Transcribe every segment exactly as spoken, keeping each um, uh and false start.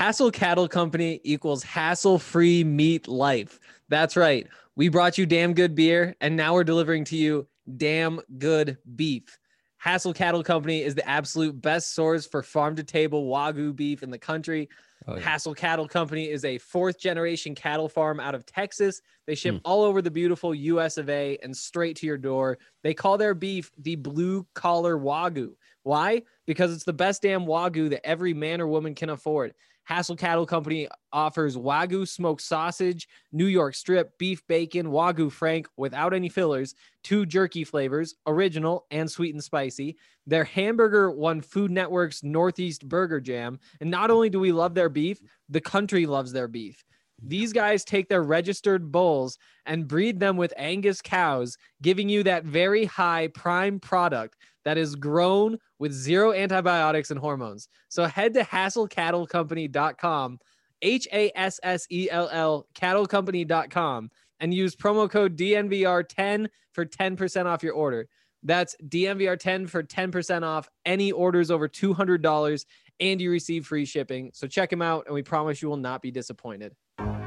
Hassel Cattle Company equals hassle-free meat life. That's right. We brought you damn good beer, and now we're delivering to you damn good beef. Hassel Cattle Company is the absolute best source for farm-to-table Wagyu beef in the country. Oh, yeah. Hassel Cattle Company is a fourth-generation cattle farm out of Texas. They ship mm. all over the beautiful U S of A and straight to your door. They call their beef the blue-collar Wagyu. Why? Because it's the best damn Wagyu that every man or woman can afford. Hassel Cattle Company offers Wagyu smoked sausage, New York strip, beef bacon, Wagyu Frank without any fillers, two jerky flavors, original and sweet and spicy. Their hamburger won Food Network's Northeast Burger Jam. And not only do we love their beef, the country loves their beef. These guys take their registered bulls and breed them with Angus cows, giving you that very high prime product that is grown with zero antibiotics and hormones. So head to hassel cattle company dot com, H A S S E L L, cattle company dot com, and use promo code D N V R ten for ten percent off your order. That's D N V R ten for ten percent off any orders over two hundred dollars, and you receive free shipping. So check them out, and we promise you will not be disappointed.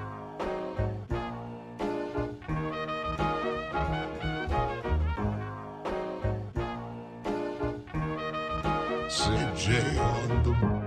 C J on the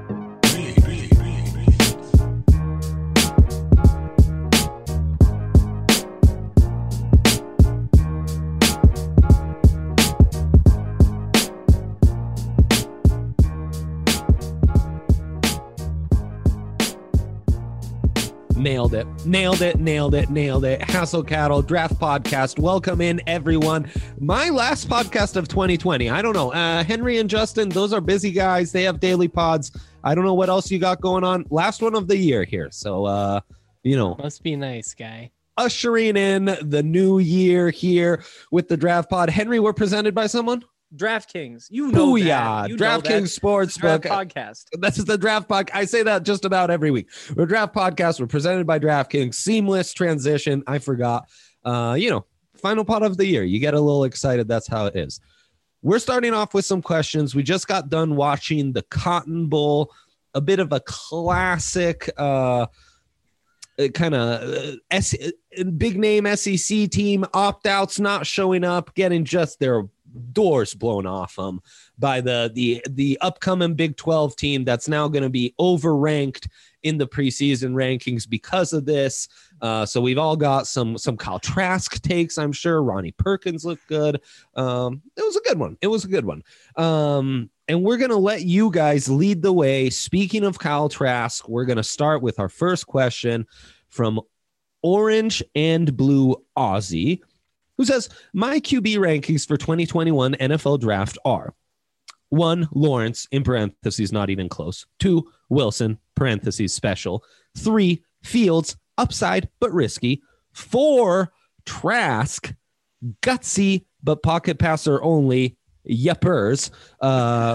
Nailed it. Nailed it. Nailed it. Nailed it. Hassel Cattle Draft Podcast. Welcome in, everyone. My last podcast of twenty twenty. I don't know. Uh, Henry and Justin, those are busy guys. They have daily pods. I don't know what else you got going on. Last one of the year here. So, uh, you know. Must be nice, guy. Ushering in the new year here with the Draft Pod. Henry, we're presented by someone? DraftKings, you know Booyah. that. You DraftKings Sportsbook podcast. This is the Draft Podcast. I say that just about every week. We're Draft Podcast. We're presented by DraftKings. Seamless transition. I forgot. Uh, you know, final pot of the year. You get a little excited. That's how it is. We're starting off with some questions. We just got done watching the Cotton Bowl, a bit of a classic, uh, kind of uh, S- big name S E C team opt-outs, not showing up, getting just their doors blown off them by the the the upcoming Big twelve team that's now going to be overranked in the preseason rankings because of this. Uh, so we've all got some some Kyle Trask takes. I'm sure Ronnie Perkins looked good. Um, it was a good one. It was a good one. Um, and we're going to let you guys lead the way. Speaking of Kyle Trask, we're going to start with our first question from Orange and Blue Aussie, who says, my Q B rankings for twenty twenty-one N F L draft are one, Lawrence, in parentheses, not even close. Two, Wilson, parentheses, special. Three, Fields, upside, but risky. Four, Trask, gutsy, but pocket passer only. Yuppers. Uh,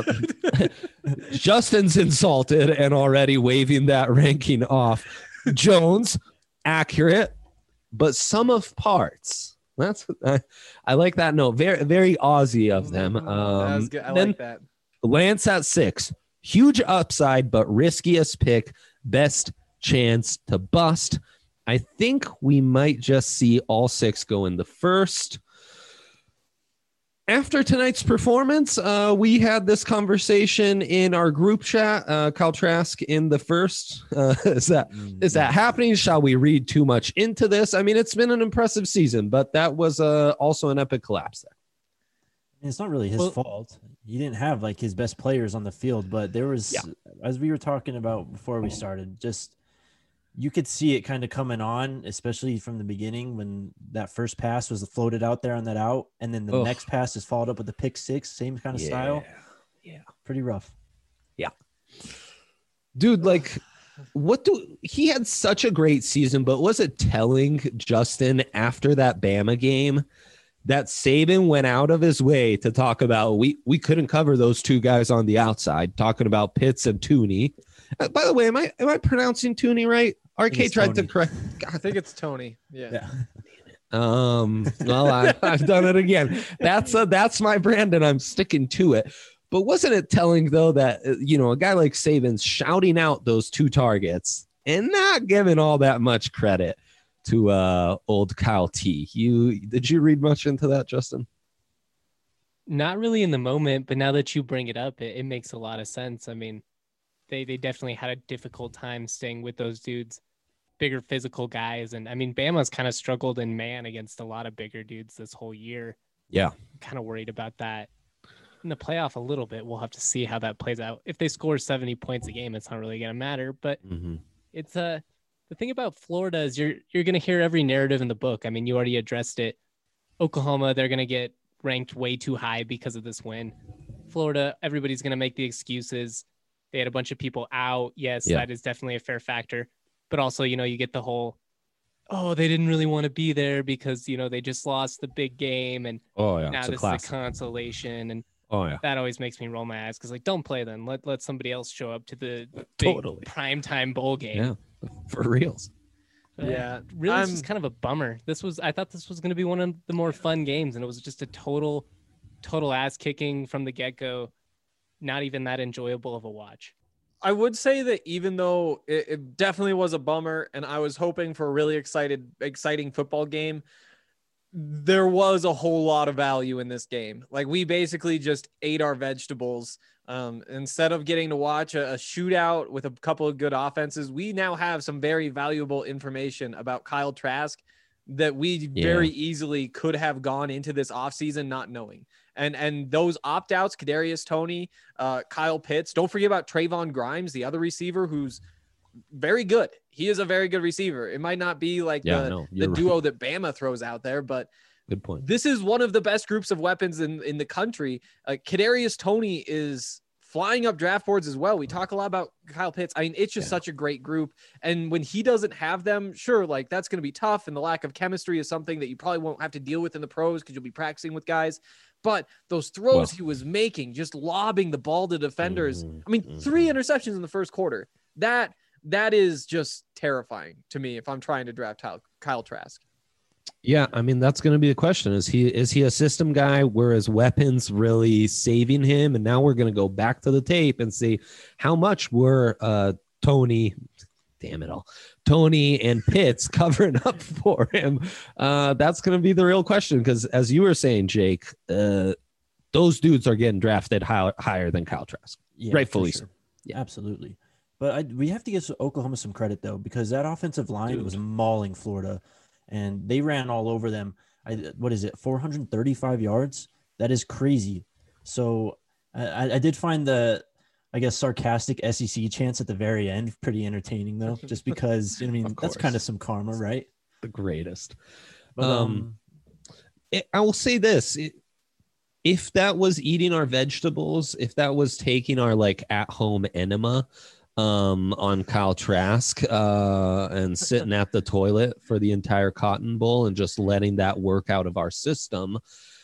Justin's insulted and already waving that ranking off. Jones, accurate, but sum of parts. That's I, I like that note. Very, very Aussie of them. Um, that was good. I like that. Lance at six, huge upside, but riskiest pick, best chance to bust. I think we might just see all six go in the first. After tonight's performance, uh, we had this conversation in our group chat. Uh, Kyle Trask in the first. Uh, is that is that happening? Shall we read too much into this? I mean, it's been an impressive season, but that was uh, also an epic collapse there. It's not really his well, fault. He didn't have like his best players on the field, but there was, yeah. as we were talking about before we started, just you could see it kind of coming on, especially from the beginning when that first pass was floated out there on that out, and then the Ugh. next pass is followed up with the pick six, same kind of yeah. style. Yeah, pretty rough. Yeah, dude, like, what do he had such a great season, but was it telling, Justin, after that Bama game that Saban went out of his way to talk about we we couldn't cover those two guys on the outside, talking about Pitts and Tooney. Uh, by the way, am I am I pronouncing Tooney right? R K tried Tony. to correct. I think it's Tony. Yeah. yeah. Um. Well, I, I've done it again. That's a, that's my brand, and I'm sticking to it. But wasn't it telling, though, that, uh, you know, a guy like Saban's shouting out those two targets and not giving all that much credit to uh, old Kyle T? You did you read much into that, Justin? Not really in the moment, but now that you bring it up, it, it makes a lot of sense. I mean, they they definitely had a difficult time staying with those dudes, bigger physical guys. And I mean, Bama's kind of struggled in man against a lot of bigger dudes this whole year. Yeah. Kind of worried about that. In the playoff a little bit, we'll have to see how that plays out. If they score seventy points a game, it's not really going to matter. But Mm-hmm. it's a uh, the thing about Florida is you're you're going to hear every narrative in the book. I mean, you already addressed it. Oklahoma, they're going to get ranked way too high because of this win. Florida, everybody's going to make the excuses. They had a bunch of people out. Yes, Yeah. that is definitely a fair factor. But also, you know, you get the whole, oh, they didn't really want to be there because, you know, they just lost the big game. And Oh, yeah. now It's a this classic. is a consolation. And Oh, yeah. that always makes me roll my eyes because, like, don't play then. Let let somebody else show up to the big Totally. primetime bowl game. Yeah. For reals. Uh, Yeah, really, it's I'm- just kind of a bummer. This was, I thought this was going to be one of the more fun games, and it was just a total, total ass kicking from the get go. Not even that enjoyable of a watch. I would say that even though it, it definitely was a bummer and I was hoping for a really excited, exciting football game, there was a whole lot of value in this game. Like, we basically just ate our vegetables. Um, instead of getting to watch a, a shootout with a couple of good offenses, we now have some very valuable information about Kyle Trask that we Yeah. very easily could have gone into this offseason not knowing. And and those opt-outs, Kadarius Toney, uh, Kyle Pitts, don't forget about Trayvon Grimes, the other receiver who's very good. He is a very good receiver. It might not be like Yeah, the, no, the you're right. duo that Bama throws out there, but Good point. this is one of the best groups of weapons in, in the country. Uh, Kadarius Toney is flying up draft boards as well. We talk a lot about Kyle Pitts. I mean, it's just Yeah. such a great group. And when he doesn't have them, sure, like that's going to be tough. And the lack of chemistry is something that you probably won't have to deal with in the pros because you'll be practicing with guys. But those throws Well- he was making, just lobbing the ball to defenders. Mhm, I mean, mhm. three interceptions in the first quarter. That that is just terrifying to me if I'm trying to draft Kyle, Kyle Trask. Yeah, I mean that's going to be the question: is he is he a system guy? Were his weapons really saving him? And now we're going to go back to the tape and see how much were uh, Tony, damn it all, Tony and Pitts covering up for him. Uh, that's going to be the real question because, as you were saying, Jake, uh, those dudes are getting drafted high, higher than Kyle Trask. Yeah, Rightfully for so. sure. Yeah, absolutely. But I, we have to give Oklahoma some credit though, because that offensive line Dude. was mauling Florida, and they ran all over them. I, what is it, four hundred thirty-five yards? That is crazy. So I, I did find the, I guess, sarcastic S E C chants at the very end pretty entertaining though, just because I mean Of that's course. kind of some karma, right? The greatest. But, Um, um, it, I will say this. It, if that was eating our vegetables, if that was taking our like at home enema um, on Kyle Trask uh, and sitting at the toilet for the entire Cotton Bowl and just letting that work out of our system,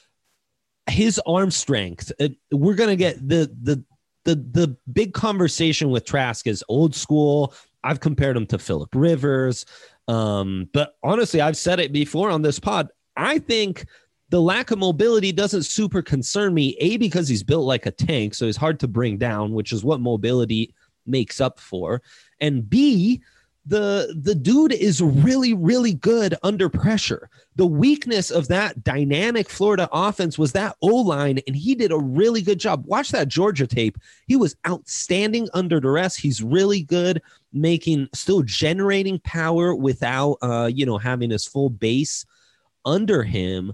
his arm strength, it, we're going to get the, the, the, the big conversation with Trask is old school. I've compared him to Phillip Rivers. Um, but honestly, I've said it before on this pod. I think the lack of mobility doesn't super concern me, A, because he's built like a tank, so he's hard to bring down, which is what mobility makes up for. And B, the the dude is really, really good under pressure. The weakness of that dynamic Florida offense was that O-line, and he did a really good job. Watch that Georgia tape. He was outstanding under duress. He's really good making, still generating power without, uh, you know, having his full base under him.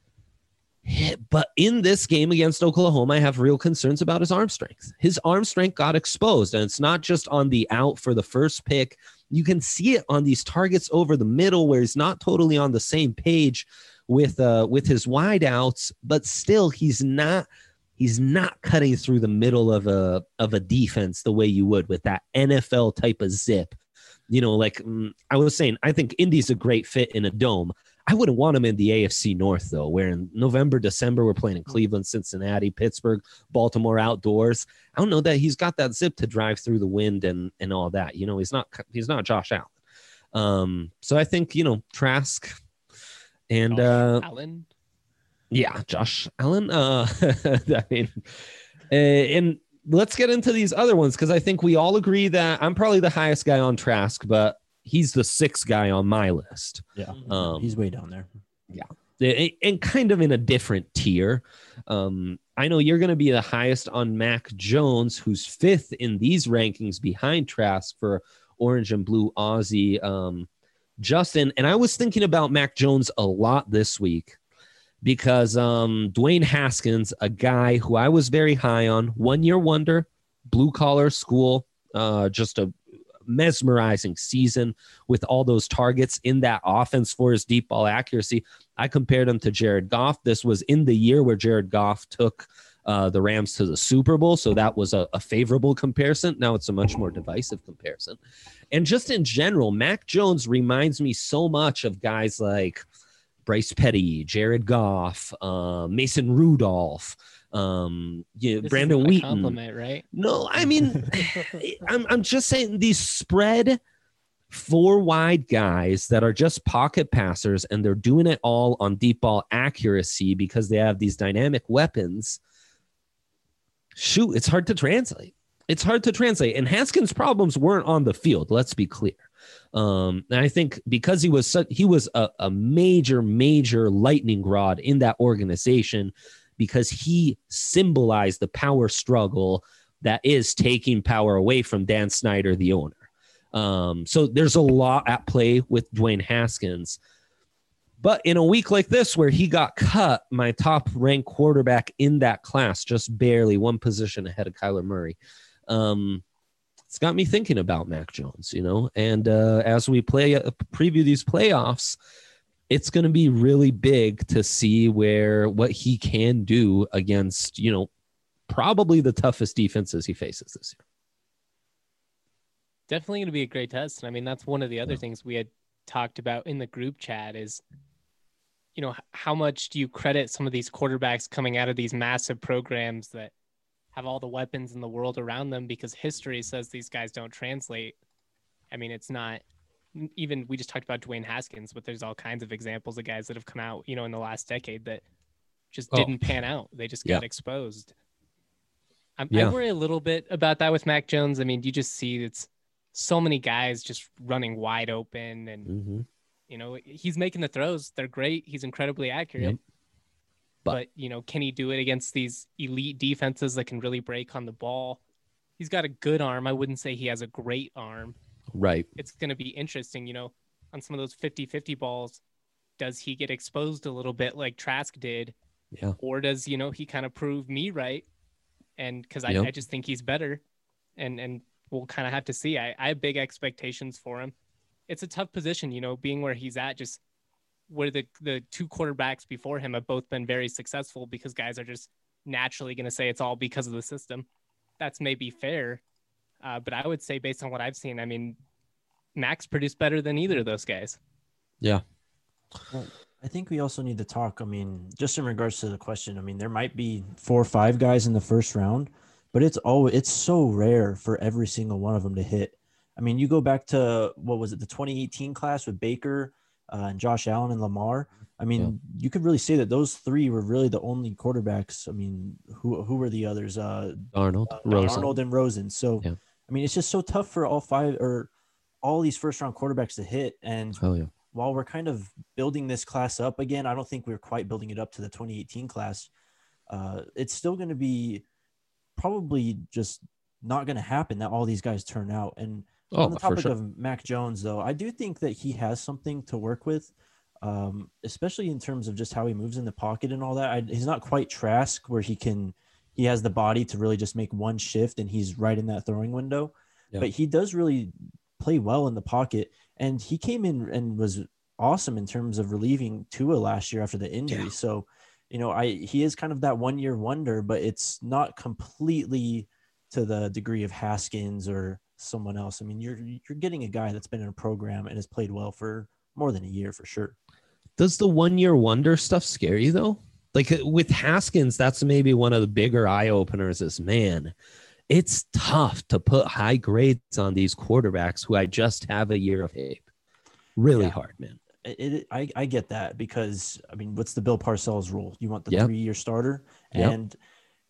But in this game against Oklahoma, I have real concerns about his arm strength. His arm strength got exposed, and it's not just on the out for the first pick. You can see it on these targets over the middle where he's not totally on the same page with uh, with his wideouts, but still he's not he's not cutting through the middle of a of a defense the way you would with that N F L type of zip. You know, like mm, I was saying, I think Indy's a great fit in a dome. I wouldn't want him in the A F C North, though, where in November, December, we're playing in Cleveland, Cincinnati, Pittsburgh, Baltimore outdoors. I don't know that he's got that zip to drive through the wind and and all that. You know, he's not he's not Josh Allen. Um, so I think, you know, Trask and uh, Allen. yeah, Josh Allen. Uh, I mean, Uh, and let's get into these other ones because I think we all agree that I'm probably the highest guy on Trask, but he's the sixth guy on my list. Yeah, Um, he's way down there. Yeah. And kind of in a different tier. Um, I know you're going to be the highest on Mac Jones, who's fifth in these rankings behind Trask for Orange and Blue Aussie. Um, Justin, and I was thinking about Mac Jones a lot this week because um, Dwayne Haskins, a guy who I was very high on, one-year wonder, blue-collar school, uh, just a mesmerizing season with all those targets in that offense for his deep ball accuracy. I compared him to Jared Goff. This was in the year where Jared Goff took uh, the Rams to the Super Bowl, so that was a, a favorable comparison. Now it's a much more divisive comparison. And just in general, Mac Jones reminds me so much of guys like Bryce Petty, Jared Goff, uh, Mason Rudolph, um, you know, Brandon Wheaton. Compliment, right? No, I mean, I'm I'm just saying these spread four wide guys that are just pocket passers, and they're doing it all on deep ball accuracy because they have these dynamic weapons. Shoot, it's hard to translate. It's hard to translate. And Haskins' problems weren't on the field. Let's be clear. Um, and I think because he was such, he was a, a major, major lightning rod in that organization because he symbolized the power struggle that is taking power away from Dan Snyder, the owner. Um, so there's a lot at play with Dwayne Haskins. But in a week like this where he got cut, my top ranked quarterback in that class, just barely one position ahead of Kyler Murray, um, it's got me thinking about Mac Jones, you know, and uh, as we play uh, preview these playoffs, it's going to be really big to see where what he can do against, you know, probably the toughest defenses he faces this year. Definitely going to be a great test. And I mean, that's one of the other yeah. things we had talked about in the group chat is, you know, how much do you credit some of these quarterbacks coming out of these massive programs that have all the weapons in the world around them because history says these guys don't translate. I mean, it's not even, we just talked about Dwayne Haskins, but there's all kinds of examples of guys that have come out, you know, in the last decade that just oh. didn't pan out. They just got yeah. exposed. I, yeah. I worry a little bit about that with Mac Jones. I mean, you just see it's so many guys just running wide open and, mm-hmm. you know, he's making the throws. They're great. He's incredibly accurate. Yep. But, but, you know, can he do it against these elite defenses that can really break on the ball? He's got a good arm. I wouldn't say he has a great arm. Right. It's going to be interesting, you know, on some of those fifty-fifty balls, does he get exposed a little bit like Trask did? Yeah. Or does, you know, he kind of prove me right? And because I, yep. I just think he's better. And and we'll kind of have to see. I, I have big expectations for him. It's a tough position, you know, being where he's at, just where the, the two quarterbacks before him have both been very successful because guys are just naturally going to say it's all because of the system. That's maybe fair. Uh, but I would say based on what I've seen, I mean, Max produced better than either of those guys. Yeah. Well, I think we also need to talk. I mean, just in regards to the question, I mean, there might be four or five guys in the first round, but it's always, it's so rare for every single one of them to hit. I mean, you go back to, what was it, the twenty eighteen class with Baker uh, and Josh Allen and Lamar. I mean, yeah. you could really say that those three were really the only quarterbacks. I mean, who who were the others? Uh, Arnold, uh, Rosen. Arnold and Rosen. So, yeah. I mean, it's just so tough for all five or all these first round quarterbacks to hit. And oh, yeah. while we're kind of building this class up again, I don't think we're quite building it up to the twenty eighteen class. Uh, it's still going to be probably just not going to happen that all these guys turn out. And oh, on the topic sure. of Mac Jones, though, I do think that he has something to work with, um, especially in terms of just how he moves in the pocket and all that. I, he's not quite Trask where he can, he has the body to really just make one shift and he's right in that throwing window, yeah. but he does really play well in the pocket. And he came in and was awesome in terms of relieving Tua last year after the injury. Yeah. So, you know, I, he is kind of that one year wonder, but it's not completely to the degree of Haskins or someone else. I mean, you're, you're getting a guy that's been in a program and has played well for more than a year for sure. Does the one year wonder stuff scare you though? Like with Haskins, that's maybe one of the bigger eye openers is, man, it's tough to put high grades on these quarterbacks who I just have a year of tape. Really yeah. hard, man. It, it, I, I get that because, I mean, what's the Bill Parcells rule? You want the yep. three-year starter. Yep. And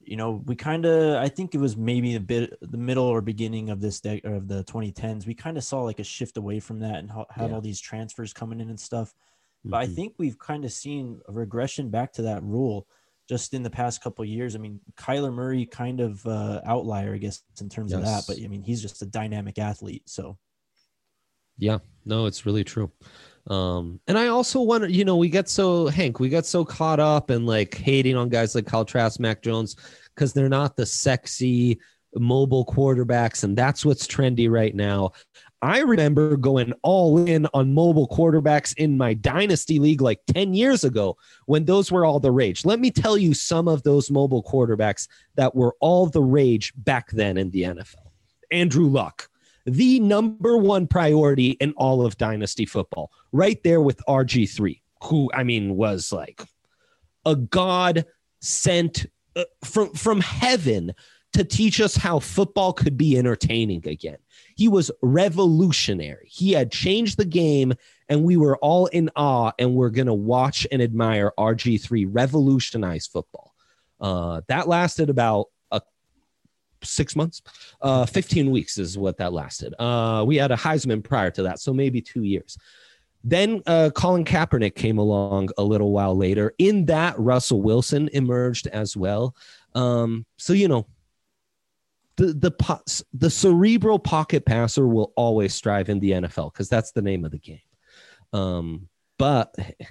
you know, we kind of, I think it was maybe a bit the middle or beginning of this day of the twenty tens. We kind of saw like a shift away from that and ha- had Yeah. all these transfers coming in and stuff. But I Mhm. think we've kind of seen a regression back to that rule just in the past couple of years. I mean, Kyler Murray kind of uh, outlier, I guess, in terms of that. Yes. But I mean, he's just a dynamic athlete. So Yeah, no, it's really true. Um, and I also wonder, you know, we get so Hank, we get so caught up in like hating on guys like Kyle Trask, Mac Jones, because they're not the sexy mobile quarterbacks, and that's what's trendy right now. I remember going all in on mobile quarterbacks in my dynasty league like ten years ago when those were all the rage. Let me tell you some of those mobile quarterbacks that were all the rage back then in the N F L. Andrew Luck, the number one priority in all of dynasty football, right there with R G three, who, I mean, was like a God sent uh, from, from heaven to teach us how football could be entertaining again. He was revolutionary. He had changed the game, and we were all in awe, and we're going to watch and admire R G three revolutionize football. Uh, that lasted about a six months, uh, fifteen weeks is what that lasted. Uh, we had a Heisman prior to that, so maybe two years. Then uh, Colin Kaepernick came along a little while later. In that, Russell Wilson emerged as well. Um, so, you know, the the po- the cerebral pocket passer will always strive in the N F L because that's the name of the game. Um, but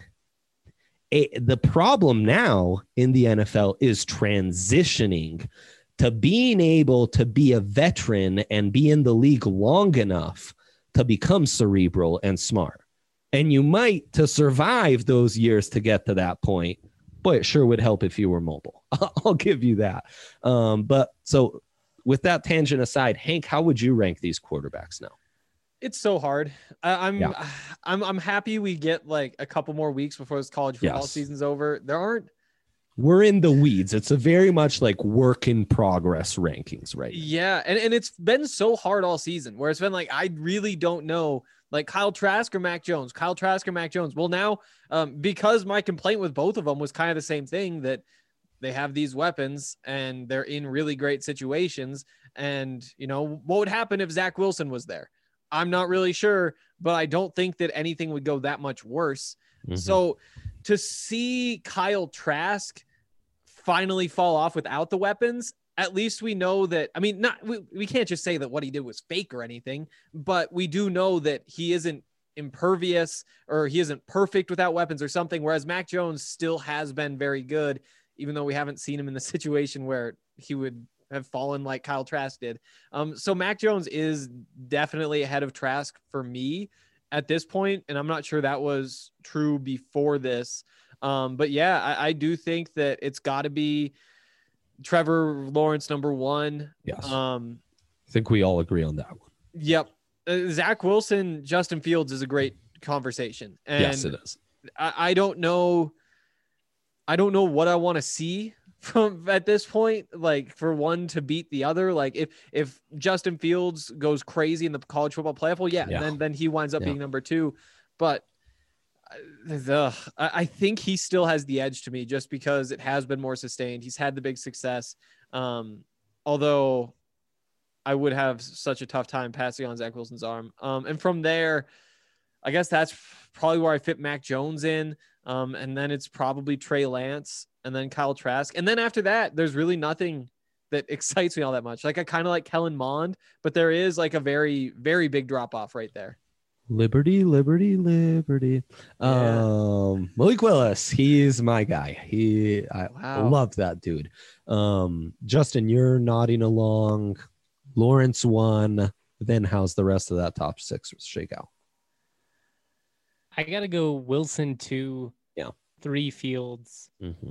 it, the problem now in the N F L is transitioning to being able to be a veteran and be in the league long enough to become cerebral and smart. And you might, to survive those years to get to that point, boy, it sure would help if you were mobile. I'll give you that. Um, but so with that tangent aside, Hank, how would you rank these quarterbacks now? It's so hard. I, I'm, Yeah. I'm, I'm happy we get like a couple more weeks before this college football Yes. season's over. There aren't. We're in the weeds. It's a very much like work in progress rankings, right? Yeah, and, and it's been so hard all season where it's been like, I really don't know, like Kyle Trask or Mac Jones, Kyle Trask or Mac Jones. Well, now, um, because my complaint with both of them was kind of the same thing, that they have these weapons and they're in really great situations. And, you know, what would happen if Zach Wilson was there? I'm not really sure, but I don't think that anything would go that much worse. Mhm. So to see Kyle Trask finally fall off without the weapons, at least we know that, I mean, not, we, we can't just say that what he did was fake or anything, but we do know that he isn't impervious or he isn't perfect without weapons or something. Whereas Mac Jones still has been very good, even though we haven't seen him in the situation where he would have fallen like Kyle Trask did. Um, so Mac Jones is definitely ahead of Trask for me at this point, and I'm not sure that was true before this. Um, but yeah, I, I do think that it's got to be Trevor Lawrence number one. Yes. Um, I think we all agree on that one. Yep. Uh, Zach Wilson, Justin Fields is a great conversation. And Yes, it is. I, I don't know. I don't know what I want to see from at this point, like for one to beat the other. Like if, if Justin Fields goes crazy in the college football playoff, well, yeah, Yeah. then, then he winds up Yeah. being number two. But the, I I think he still has the edge to me just because it has been more sustained. He's had the big success. Um, although I would have such a tough time passing on Zach Wilson's arm. Um, and from there, I guess that's probably where I fit Mac Jones in. Um, and then it's probably Trey Lance and then Kyle Trask. And then after that, there's really nothing that excites me all that much. Like I kind of like Kellen Mond, but there is like a very, very big drop off right there. Liberty, liberty, liberty. Yeah. Um, Malik Willis, he's my guy. He, I Wow. love that dude. Um, Justin, you're nodding along. Lawrence won. Then how's the rest of that top six shake out? I gotta go Wilson two, Yeah. three Fields, Mm-hmm.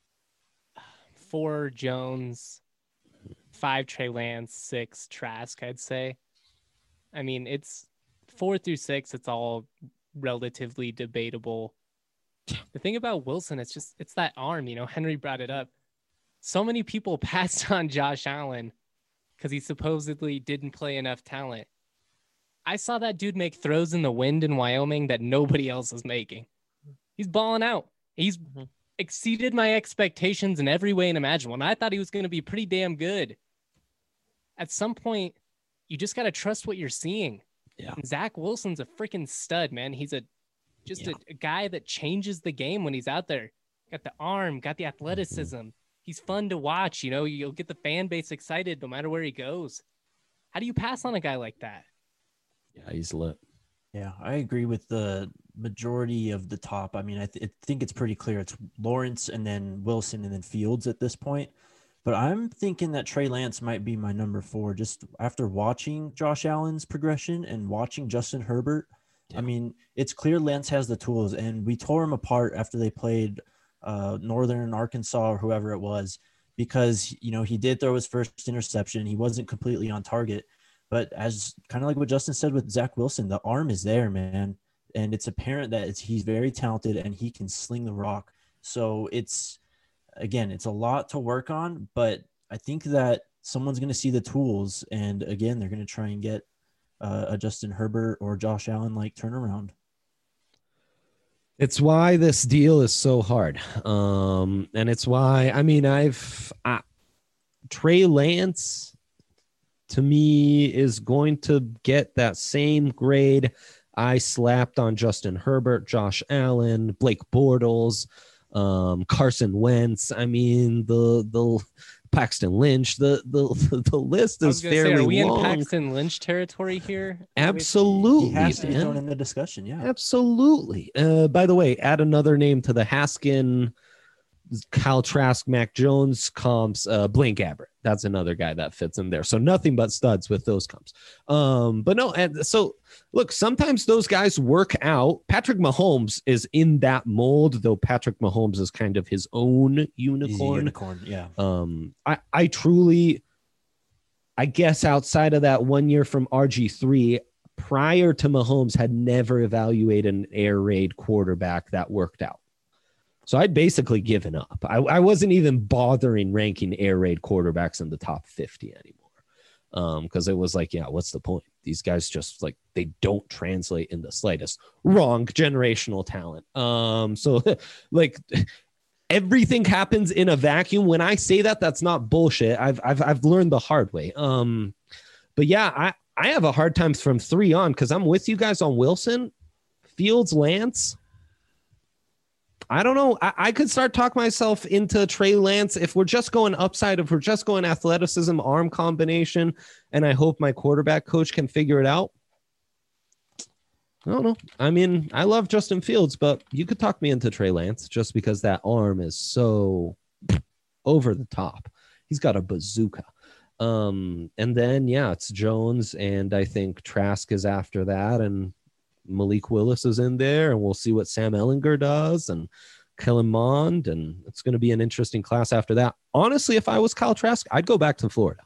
four Jones, five Trey Lance, six Trask, I'd say. I mean, it's four through six, it's all relatively debatable. The thing about Wilson, it's just, it's that arm, you know, Henry brought it up. So many people passed on Josh Allen because he supposedly didn't play enough talent. I saw that dude make throws in the wind in Wyoming that nobody else is making. He's balling out. He's Mhm. exceeded my expectations in every way imaginable. And I thought he was going to be pretty damn good. At some point, you just got to trust what you're seeing. Yeah. And Zach Wilson's a freaking stud, man. He's a just Yeah. a, a guy that changes the game when he's out there. Got the arm, got the athleticism. Mm-hmm. He's fun to watch. You know, you'll get the fan base excited no matter where he goes. How do you pass on a guy like that? Yeah, he's lit. Yeah, I agree with the majority of the top. I mean, I, th- I think it's pretty clear. It's Lawrence and then Wilson and then Fields at this point. But I'm thinking that Trey Lance might be my number four just after watching Josh Allen's progression and watching Justin Herbert. Yeah. I mean, it's clear Lance has the tools, and we tore him apart after they played uh, Northern Arkansas or whoever it was because, you know, he did throw his first interception. He wasn't completely on target. But as kind of like what Justin said with Zach Wilson, the arm is there, man. And it's apparent that it's, he's very talented and he can sling the rock. So it's, again, it's a lot to work on, but I think that someone's going to see the tools. And again, they're going to try and get uh, a Justin Herbert or Josh Allen like turnaround. It's why this deal is so hard. Um, and it's why, I mean, I've I, Trey Lance, to me, is going to get that same grade I slapped on Justin Herbert, Josh Allen, Blake Bortles, um, Carson Wentz. I mean, the the Paxton Lynch. The the the list is fairly say, are we long. in Paxton Lynch territory here? Absolutely, he has to be man. thrown in the discussion. Yeah, absolutely. Uh, by the way, add another name to the Haskin, Kyle Trask, Mac Jones comps. Uh, Blaine Gabbert. That's another guy that fits in there. So nothing but studs with those comps. Um, but no, and so look, sometimes those guys work out. Patrick Mahomes is in that mold, though Patrick Mahomes is kind of his own unicorn. unicorn, yeah. Um, I, I truly, I guess outside of that one year from R G three, prior to Mahomes, had never evaluated an air raid quarterback that worked out. So I'd basically given up. I, I wasn't even bothering ranking air raid quarterbacks in the top fifty anymore. Because um, it was like, yeah, what's the point? These guys just like, they don't translate in the slightest. Wrong generational talent. Um, so like everything happens in a vacuum. When I say that, that's not bullshit. I've, I've, I've learned the hard way. Um, but yeah, I, I have a hard time from three on because I'm with you guys on Wilson, Fields, Lance. I don't know. I, I could start talking myself into Trey Lance if we're just going upside, if we're just going athleticism, arm combination, and I hope my quarterback coach can figure it out. I don't know. I mean, I love Justin Fields, but you could talk me into Trey Lance just because that arm is so over the top. He's got a bazooka. Um, and then, yeah, it's Jones, and I think Trask is after that, and Malik Willis is in there, and we'll see what Sam Ehlinger does, and Kellen Mond, and it's going to be an interesting class after that. Honestly, if I was Kyle Trask, I'd go back to Florida.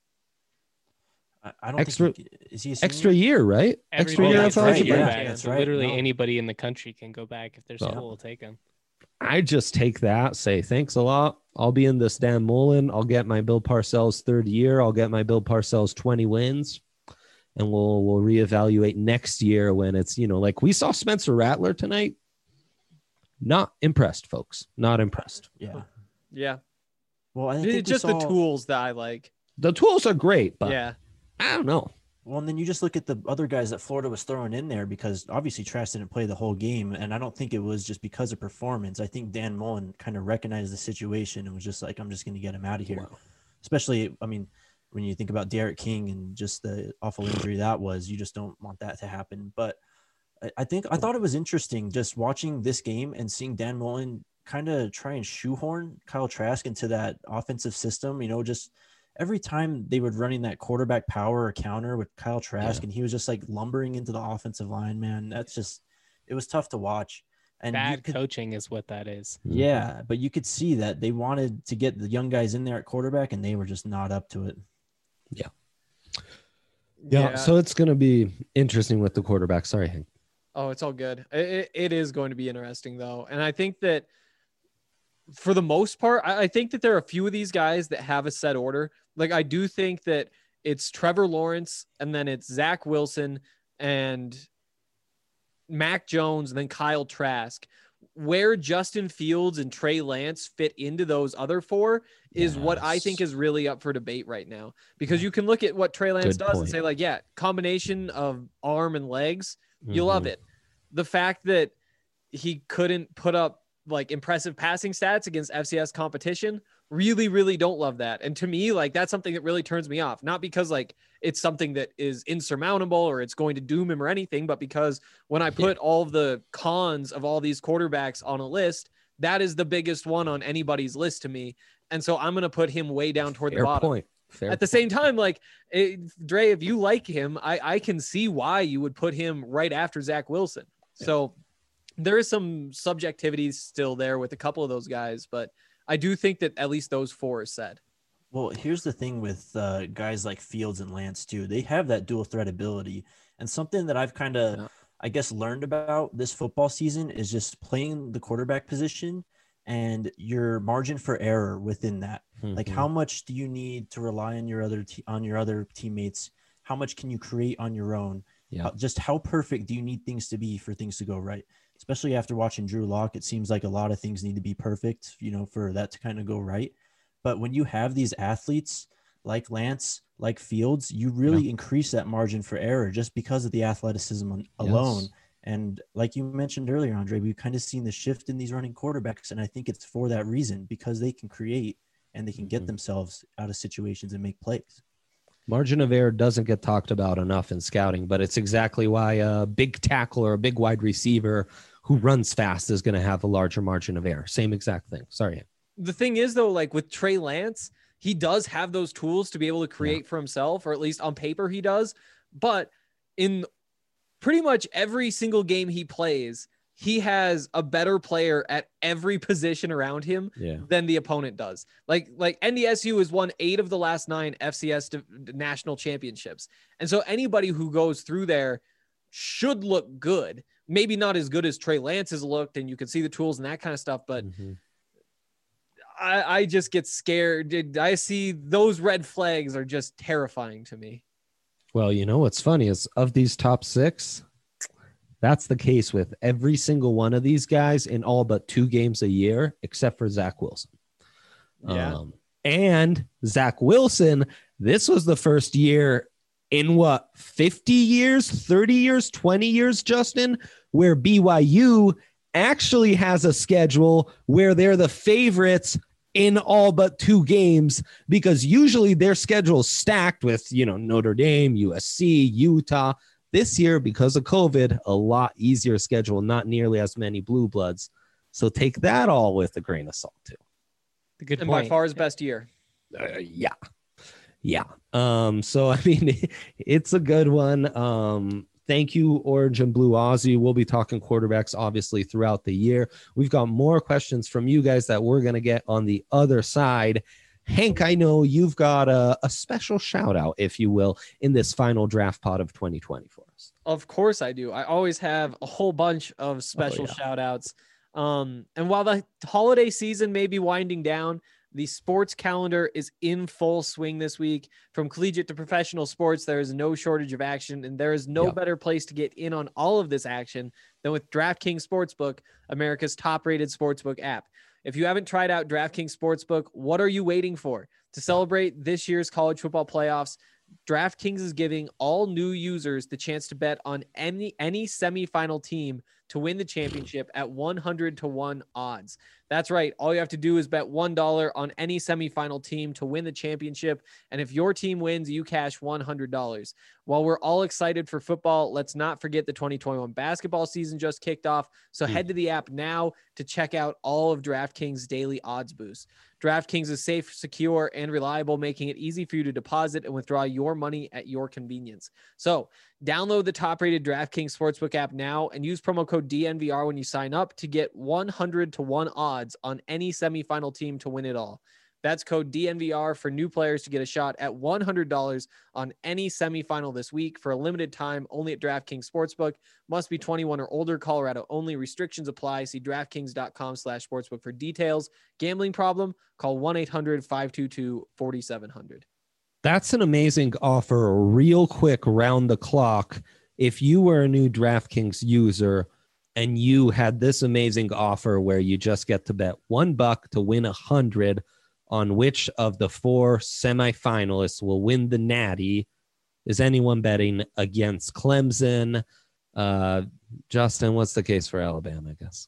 I, I don't extra, think he, is he a extra year, right? Extra year of right, eligibility. yeah, that's right. Literally no. Anybody in the country can go back if their So, school will take them. I just take that, say thanks a lot. I'll be in this Dan Mullen. I'll get my Bill Parcells third year. I'll get my Bill Parcells twenty wins. And we'll we'll reevaluate next year when it's, you know, like we saw Spencer Rattler tonight. Not impressed, folks. Not impressed. Yeah. Yeah. Well, I think it's just saw... the tools that I like. The tools are great, but yeah, I don't know. Well, and then you just look at the other guys that Florida was throwing in there because obviously Trask didn't play the whole game. And I don't think it was just because of performance. I think Dan Mullen kind of recognized the situation and was just like, I'm just going to get him out of here. Wow. Especially, I mean, when you think about Derek King and just the awful injury that was, you just don't want that to happen. But I think I thought it was interesting just watching this game and seeing Dan Mullen kind of try and shoehorn Kyle Trask into that offensive system. You know, just every time they would running that quarterback power or counter with Kyle Trask, yeah. and he was just like lumbering into the offensive line, man. That's just, it was tough to watch. And bad could, coaching is what that is. Yeah, but you could see that they wanted to get the young guys in there at quarterback, and they were just not up to it. Yeah. Yeah. Yeah. So it's going to be interesting with the quarterback. Sorry, Hank. Oh, it's all good. It, it is going to be interesting, though. And I think that for the most part, I, I think that there are a few of these guys that have a set order. Like, I do think that it's Trevor Lawrence, and then it's Zach Wilson and Mac Jones, and then Kyle Trask, where Justin Fields and Trey Lance fit into those other four is yes. what I think is really up for debate right now, because you can look at what Trey Lance Good does point. and say like, yeah, combination of arm and legs, you mm-hmm. love it. The fact that he couldn't put up like impressive passing stats against F C S competition, really, really don't love that. And to me, like that's something that really turns me off, not because like it's something that is insurmountable or it's going to doom him or anything, but because when I put yeah. all of the cons of all these quarterbacks on a list, that is the biggest one on anybody's list to me. And so I'm going to put him way down toward Fair the bottom. Point. Fair At the point. same time, like it, Dre, if you like him, I, I can see why you would put him right after Zach Wilson. Yeah. So there is some subjectivity still there with a couple of those guys, but I do think that at least those four are said. Well, here's the thing with uh, guys like Fields and Lance too. They have that dual threat ability, and something that I've kind of, yeah. I guess, learned about this football season is just playing the quarterback position and your margin for error within that. Mm-hmm. Like, how much do you need to rely on your other te- on your other teammates? How much can you create on your own? Yeah. How, just how perfect do you need things to be for things to go right? Especially after watching Drew Lock, it seems like a lot of things need to be perfect, you know, for that to kind of go right. But when you have these athletes like Lance, like Fields, you really yeah. increase that margin for error just because of the athleticism alone. Yes. And like you mentioned earlier, Andre, we've kind of seen the shift in these running quarterbacks. And I think it's for that reason, because they can create and they can get mm-hmm. themselves out of situations and make plays. Margin of error doesn't get talked about enough in scouting, but it's exactly why a big tackle or a big wide receiver who runs fast is going to have a larger margin of error. Same exact thing. Sorry. The thing is, though, like with Trey Lance, he does have those tools to be able to create yeah. for himself, or at least on paper he does. But in pretty much every single game he plays, he has a better player at every position around him yeah. than the opponent does. Like, like N D S U has won eight of the last nine F C S national championships. And so anybody who goes through there should look good. Maybe not as good as Trey Lance has looked, and you can see the tools and that kind of stuff, but mm-hmm. I, I just get scared. I see those red flags are just terrifying to me. Well, you know, what's funny is of these top six, that's the case with every single one of these guys in all but two games a year, except for Zach Wilson. Yeah. Um, and Zach Wilson, this was the first year in what, fifty years, thirty years, twenty years, Justin, where B Y U actually has a schedule where they're the favorites in all but two games, because usually their schedule is stacked with, you know, Notre Dame, U S C, Utah. This year, because of COVID, a lot easier schedule, not nearly as many blue bloods. So take that all with a grain of salt too. Good and point. By far his best year. Uh, yeah. Yeah. Um, so, I mean, it's a good one. Um, Thank you, Orange and Blue Aussie. We'll be talking quarterbacks, obviously, throughout the year. We've got more questions from you guys that we're going to get on the other side. Hank, I know you've got a, a special shout out, if you will, in this final draft pod of twenty twenty for us. Of course I do. I always have a whole bunch of special oh, yeah. shout outs. Um, and while the holiday season may be winding down, the sports calendar is in full swing this week. From collegiate to professional sports, there is no shortage of action, and there is no yep. better place to get in on all of this action than with DraftKings Sportsbook, America's top-rated sportsbook app. If you haven't tried out DraftKings Sportsbook, what are you waiting for? To celebrate this year's college football playoffs, DraftKings is giving all new users the chance to bet on any any semifinal team to win the championship at one hundred to one odds. That's right. All you have to do is bet one dollar on any semifinal team to win the championship. And if your team wins, you cash one hundred dollars. While we're all excited for football, let's not forget the twenty twenty-one basketball season just kicked off. So mm. head to the app now to check out all of DraftKings daily odds boosts. DraftKings is safe, secure, and reliable, making it easy for you to deposit and withdraw your money at your convenience. So download the top-rated DraftKings Sportsbook app now and use promo code D N V R when you sign up to get one hundred to one odds on any semifinal team to win it all. That's code D N V R for new players to get a shot at one hundred dollars on any semifinal this week for a limited time only at DraftKings Sportsbook. Must be twenty-one or older. Colorado only. Restrictions apply. See DraftKings.com slash sportsbook for details. Gambling problem? Call one eight hundred five two two four seven zero zero. That's an amazing offer. Real quick, round the clock. If you were a new DraftKings user, and you had this amazing offer where you just get to bet one buck to win a hundred on which of the four semifinalists will win the Natty, is anyone betting against Clemson? Uh, Justin, what's the case for Alabama, I guess?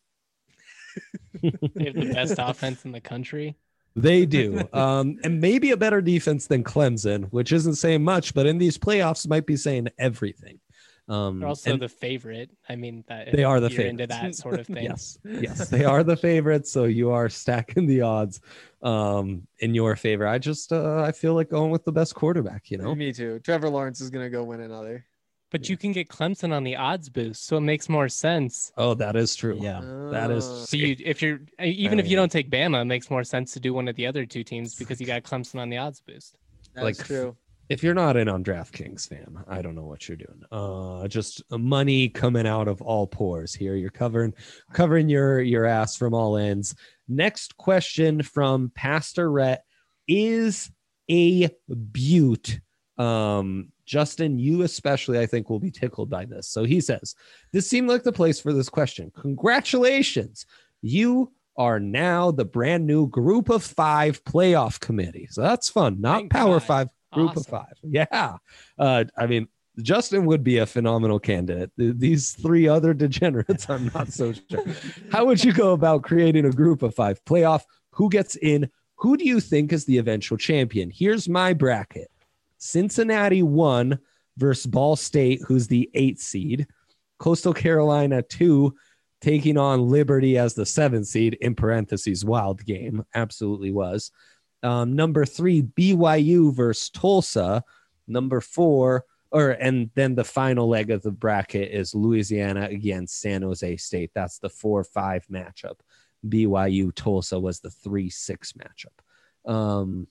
They have the best offense in the country. They do. Um, and maybe a better defense than Clemson, which isn't saying much, but in these playoffs might be saying everything. Um, They're also and the favorite. I mean, that they are the you're into favorites. that sort of thing. Yes, yes, they are the favorites. So you are stacking the odds um, in your favor. I just, uh, I feel like going with the best quarterback, you know? Me too. Trevor Lawrence is going to go win another. But you can get Clemson on the odds boost, so it makes more sense. Oh, that is true. Yeah. That is. Uh, So you, if you're even if you don't take Bama, it makes more sense to do one of the other two teams because you got Clemson on the odds boost. That's like, true. If you're not in on DraftKings, fam, I don't know what you're doing. Uh, just money coming out of all pores here. You're covering covering your your ass from all ends. Next question from Pastor Rhett is a beaut. Um, Justin, you especially, I think, will be tickled by this. So he says, this seemed like the place for this question. Congratulations. You are now the brand new group of five playoff committee. So that's fun. Not Thank power God. five, group Awesome. of five. Yeah. Uh, I mean, Justin would be a phenomenal candidate. Th- These three other degenerates, I'm not so sure. How would you go about creating a group of five playoff? Who gets in? Who do you think is the eventual champion? Here's my bracket. Cincinnati one versus Ball State, who's the eighth seed. Coastal Carolina two, taking on Liberty as the seventh seed, in parentheses, wild game. Absolutely was. Um, number three, B Y U versus Tulsa. Number four, or and then the final leg of the bracket is Louisiana against San Jose State. That's the four five matchup. B Y U Tulsa was the three six matchup. Um,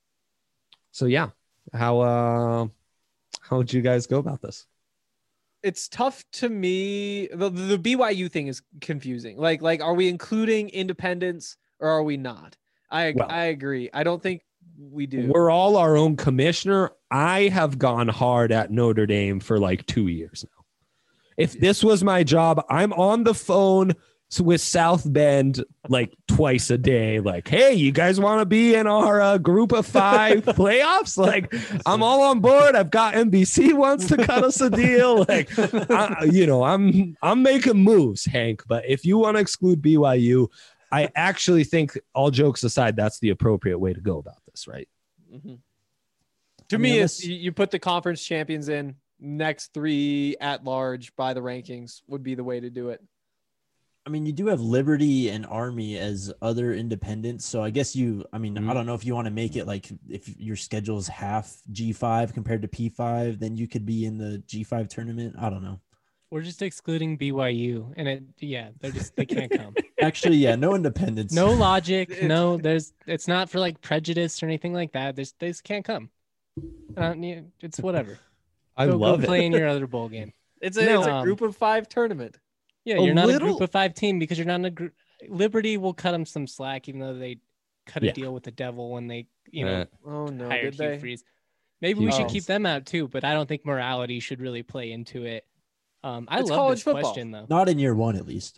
so yeah. How uh how would you guys go about this? It's tough to me. The, the B Y U thing is confusing. Like, like, are we including independents or are we not? I Well, I agree. I don't think we do. We're all our own commissioner. I have gone hard at Notre Dame for like two years now. If this was my job, I'm on the phone with South Bend like twice a day. Like, hey, you guys want to be in our uh, group of five playoffs? Like, I'm all on board. I've got N B C wants to cut us a deal. Like, I, you know, I'm I'm making moves, Hank. But if you want to exclude B Y U, I actually think, all jokes aside, that's the appropriate way to go about this, right? Mhm. To I me, mean, it's unless- you you put the conference champions in. Next three at large by the rankings would be the way to do it. I mean, you do have Liberty and Army as other independents. So I guess you, I mean, Mhm. I don't know if you want to make it like if your schedule is half G five compared to P five, then you could be in the G five tournament. I don't know. We're just excluding B Y U, and it yeah, they're just they can't come. Actually, yeah, no independence. No logic. It's- No, there's it's not for like prejudice or anything like that. There's they just can't come. Uh, yeah, it's whatever. I go, love go it. play in your other bowl game. It's a, No, it's a um, group of five tournament. Yeah, A you're not a little- group of five team because you're not in a group. Liberty will cut them some slack, even though they cut a Yeah. deal with the devil when they, you know, Uh, Oh no, hired did Hugh they? Freeze. Maybe we should Oh. keep them out too, but I don't think morality should really play into it. Um, I It's love college this football. question though. Not in year one, at least.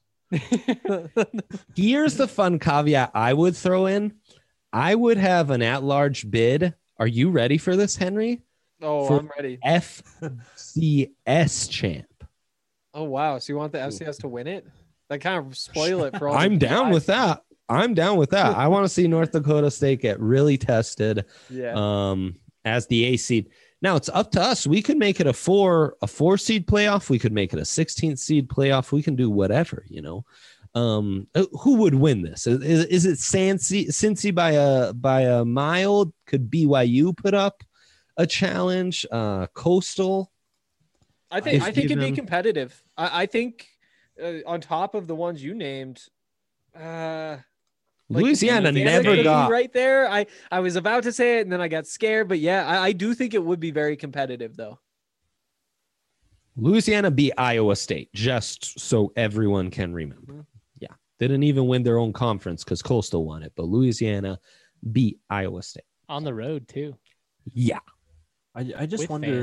Here's the fun caveat I would throw in. I would have an at-large bid. Are you ready for this, Henry? Oh, For- I'm ready. F C S champ. Oh wow, so you want the F C S to win it? That kind of spoil it for all. I'm the down guys. with that. I'm down with that. I want to see North Dakota State get really tested Yeah. um, as the A seed. Now it's up to us. We could make it a four, a four seed playoff. We could make it a sixteenth seed playoff. We can do whatever, you know. Um, uh, who would win this? Is, is, is it Cincy, Cincy by a by a mile? Could B Y U put up a challenge? Uh, Coastal. I think if I think it'd be given- competitive. I, I think uh, on top of the ones you named, uh, like Louisiana Louisiana never could be got right there. I I was about to say it and then I got scared, but yeah, I, I do think it would be very competitive though. Louisiana beat Iowa State, just so everyone can remember. Mhm. Yeah. They didn't even win their own conference because Coastal won it, but Louisiana beat Iowa State. On the road too. Yeah. I, I just with wonder. fans.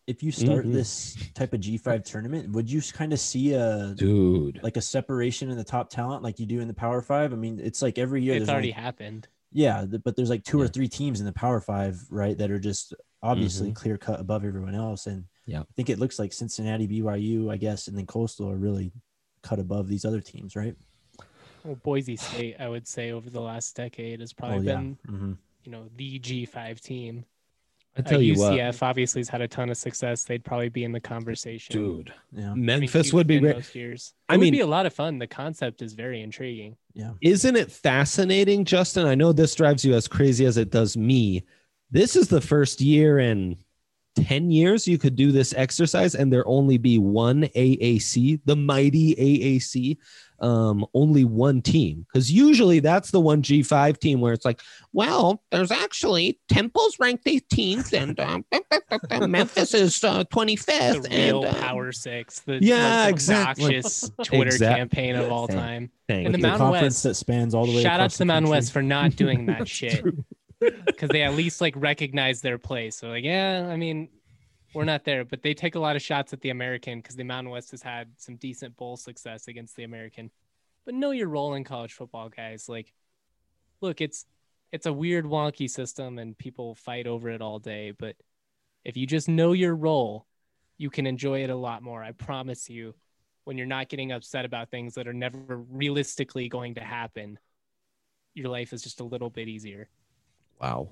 if you start Mhm. this type of G five tournament, would you kind of see a Dude. like a separation in the top talent like you do in the Power Five? I mean, it's like every year It's there's already only, happened. yeah, th- but there's like two or Yeah. three teams in the Power Five, right, that are just obviously Mhm. clear cut above everyone else. And Yeah. I think it looks like Cincinnati, B Y U, I guess, and then Coastal are really cut above these other teams, right? Well, Boise State, I would say, over the last decade has probably Oh yeah. been, hmm you know, the G five team. I Uh, tell you what, U C F obviously has had a ton of success. They'd probably be in the conversation. dude, Yeah. I mean, Memphis would be Houston great. most years. It I would mean- be a lot of fun. The concept is very intriguing. Yeah. Isn't it fascinating, Justin? I know this drives you as crazy as it does me. This is the first year in ten years you could do this exercise and there only be one A A C, the mighty A A C, um, only one team. Because usually that's the one G five team where it's like, well, there's actually Temple's ranked eighteenth and um, Memphis is uh, The twenty-fifth. real and, uh, Power Six, the yeah, most exactly. obnoxious Twitter Exact- campaign of all Thank- time. thank And the you. The Mountain conference West. that spans all the way. Shout out across to the the Mountain country. West for not doing that That's shit, true. because they at least like recognize their place. So like, yeah, I mean, we're not there, but they take a lot of shots at the American because the Mountain West has had some decent bowl success against the American. But know your role in college football, guys. Like, look, it's it's a weird, wonky system, and people fight over it all day. But if you just know your role, you can enjoy it a lot more. I promise you. When you're not getting upset about things that are never realistically going to happen, your life is just a little bit easier. Wow.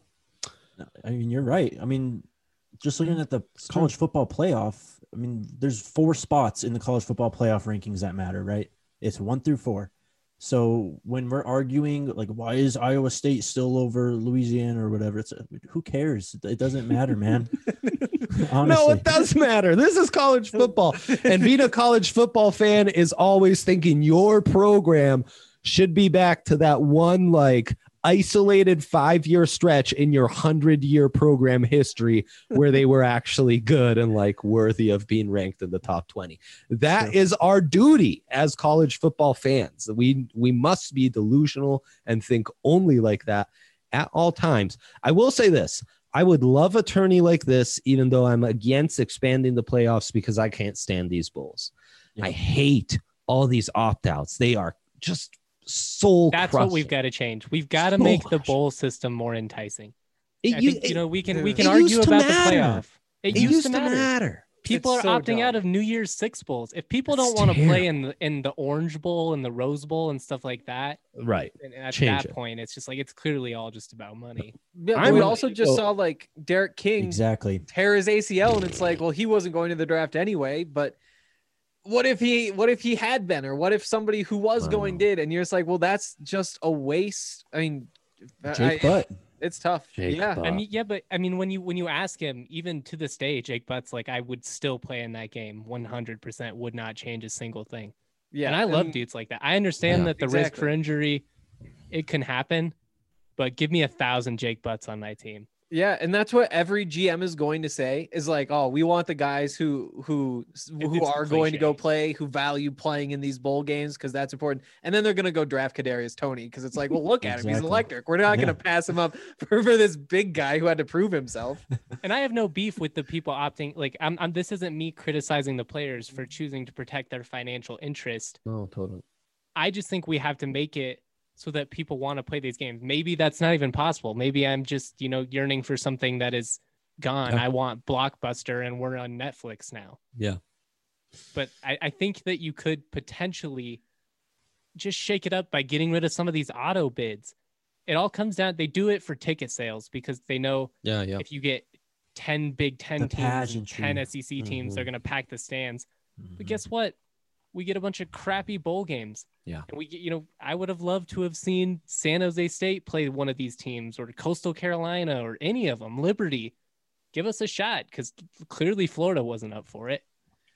I mean, you're right. I mean, just looking at the It's college football playoff, I mean, there's four spots in the college football playoff rankings that matter, right? It's one through four. So when we're arguing, like, why is Iowa State still over Louisiana or whatever? It's who cares? It doesn't matter, man. Honestly. No, it does matter. This is college football. And being a college football fan is always thinking your program should be back to that one like isolated five-year stretch in your hundred-year program history where they were actually good and like worthy of being ranked in the top twenty. That Sure. is our duty as college football fans. We we must be delusional and think only like that at all times. I will say this. I would love a tourney like this, even though I'm against expanding the playoffs because I can't stand these bowls. Yeah. I hate all these opt-outs. They are just soul That's crushing. what we've got to change. We've got to So make the much. bowl system more enticing. It, I you, think, you know, we can we it can used argue to about matter. the playoff. It, it used, to matter. matter. People It's are so opting out dumb. of New Year's Six bowls. If people That's don't want to play in the in the Orange Bowl and the Rose Bowl and stuff like that, Right. and at Change that it. point, it's just like it's clearly all just about money. Yeah, I'm we really- also just saw like Derek King Exactly. tear his A C L, and it's like, well, he wasn't going to the draft anyway. But what if he? What if he had been, or what if somebody who was going Wow. did? And you're just like, well, that's just a waste. I mean, Jake I- Butt. it's tough. Jake yeah, Butt. I mean, yeah, but I mean, when you when you ask him, even to this day, Jake Butt's like, I would still play in that game. one hundred percent would not change a single thing. yeah. And I love dudes like that. I understand Yeah. that the risk for Exactly. injury, it can happen, but give me a thousand Jake Butts on my team. Yeah, and that's what every G M is going to say is like, oh, we want the guys who who who it's are going to go cliche. play, who value playing in these bowl games because that's important. And then they're going to go draft Kadarius Toney because it's like, well, look at him, he's Exactly. electric. We're not Yeah. going to pass him up for, for this big guy who had to prove himself. And I have no beef with the people opting. Like, I'm, I'm this isn't me criticizing the players for choosing to protect their financial interest. No, totally. I just think we have to make it so that people want to play these games. Maybe that's not even possible. Maybe I'm just, you know, yearning for something that is gone. Yeah. I want Blockbuster and we're on Netflix now. Yeah. But I, I think that you could potentially just shake it up by getting rid of some of these auto bids. It all comes down, they do it for ticket sales because they know Yeah. Yeah. if you get ten Big Ten The teams and pageantry. ten S E C teams, Mhm. they're going to pack the stands. Mm-hmm. But guess what? We get a bunch of crappy bowl games. Yeah. And we get, you know, I would have loved to have seen San Jose State play one of these teams or Coastal Carolina or any of them, Liberty. Give us a shot because clearly Florida wasn't up for it.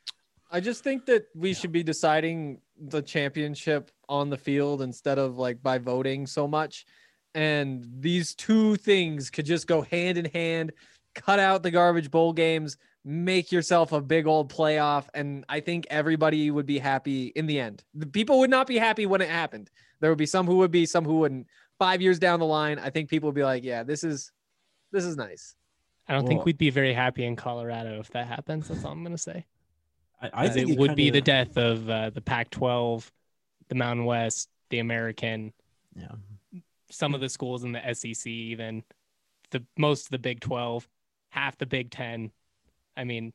I just think that we should be deciding the championship on the field instead of like by voting so much. And these two things could just go hand in hand. Cut out the garbage bowl games, make yourself a big old playoff. And I think everybody would be happy in the end. The people would not be happy when it happened. There would be some who would be, some who wouldn't. Five years down the line, I think people would be like, yeah, this is, this is nice. I don't Well, think we'd be very happy in Colorado if that happens. That's all I'm going to say. I, I think it, it would kinda, be the death of uh, the Pac twelve, the Mountain West, the American, Yeah. some of the schools in the S E C, even the most of the Big twelve, half the Big ten. I mean,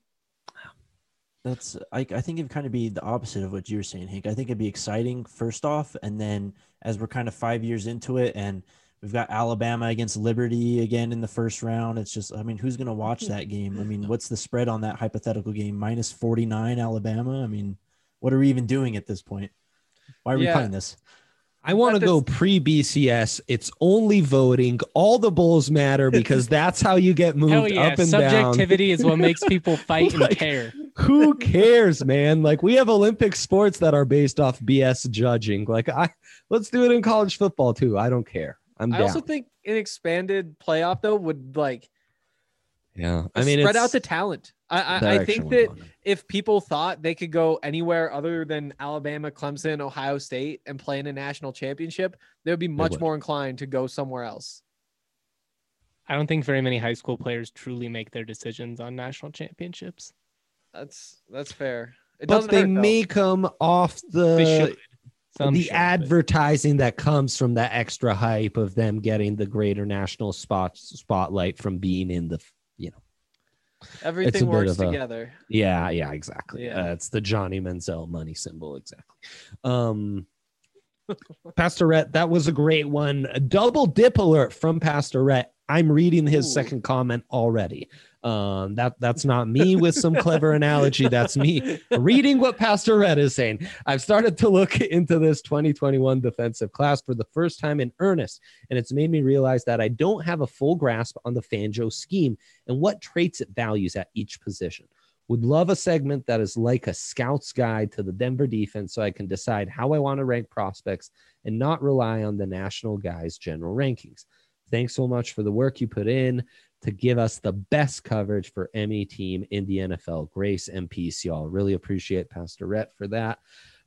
That's I, I think it'd kind of be the opposite of what you were saying, Hank. I think it'd be exciting first off, and then as we're kind of five years into it, and we've got Alabama against Liberty again in the first round. It's just, I mean, who's going to watch that game? I mean, what's the spread on that hypothetical game? Minus forty-nine Alabama. I mean, what are we even doing at this point? Why are we Yeah. playing this? I want to But go this- pre-B C S. It's only voting. All the bowls matter because that's how you get moved hell yeah, up and down. subjectivity is what makes people fight and Like, care. Who cares, man? Like, we have Olympic sports that are based off B S judging. Like, I let's do it in college football too. I don't care. I'm I down. also think an expanded playoff though would like yeah, I mean, spread it's out the talent. I I, I direction think we're that going in. if people thought they could go anywhere other than Alabama, Clemson, Ohio State and play in a national championship, they would be much would. more inclined to go somewhere else. I don't think very many high school players truly make their decisions on national championships. That's that's fair. It but doesn't they hurt, though. make them off They the should. Some the should, but- advertising that comes from the extra hype of them getting the greater national spot spotlight from being in the, you know. Everything bit works of a- together. Yeah, yeah, exactly. Yeah. Uh, it's the Johnny Manziel money symbol, exactly. Um, Pastorette, that was a great one. A double dip alert from Pastorette. I'm reading his Ooh. second comment already. Um, that that's not me with some clever analogy. That's me reading what Pastorette is saying. I've started to look into this twenty twenty-one defensive class for the first time in earnest, and it's made me realize that I don't have a full grasp on the Fangio scheme and what traits it values at each position. Would love a segment that is like a scout's guide to the Denver defense so I can decide how I want to rank prospects and not rely on the national guys' general rankings. Thanks so much for the work you put in to give us the best coverage for any team in the N F L. Grace and peace, y'all. Really appreciate Pastor Rhett for that.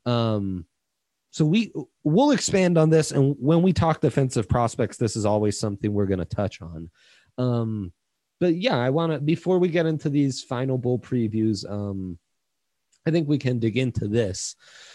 Um, so we we'll expand on this, and when we talk defensive prospects, this is always something we're going to touch on. Um, but yeah, I want to before we get into these final bowl previews, um, I think we can dig into this.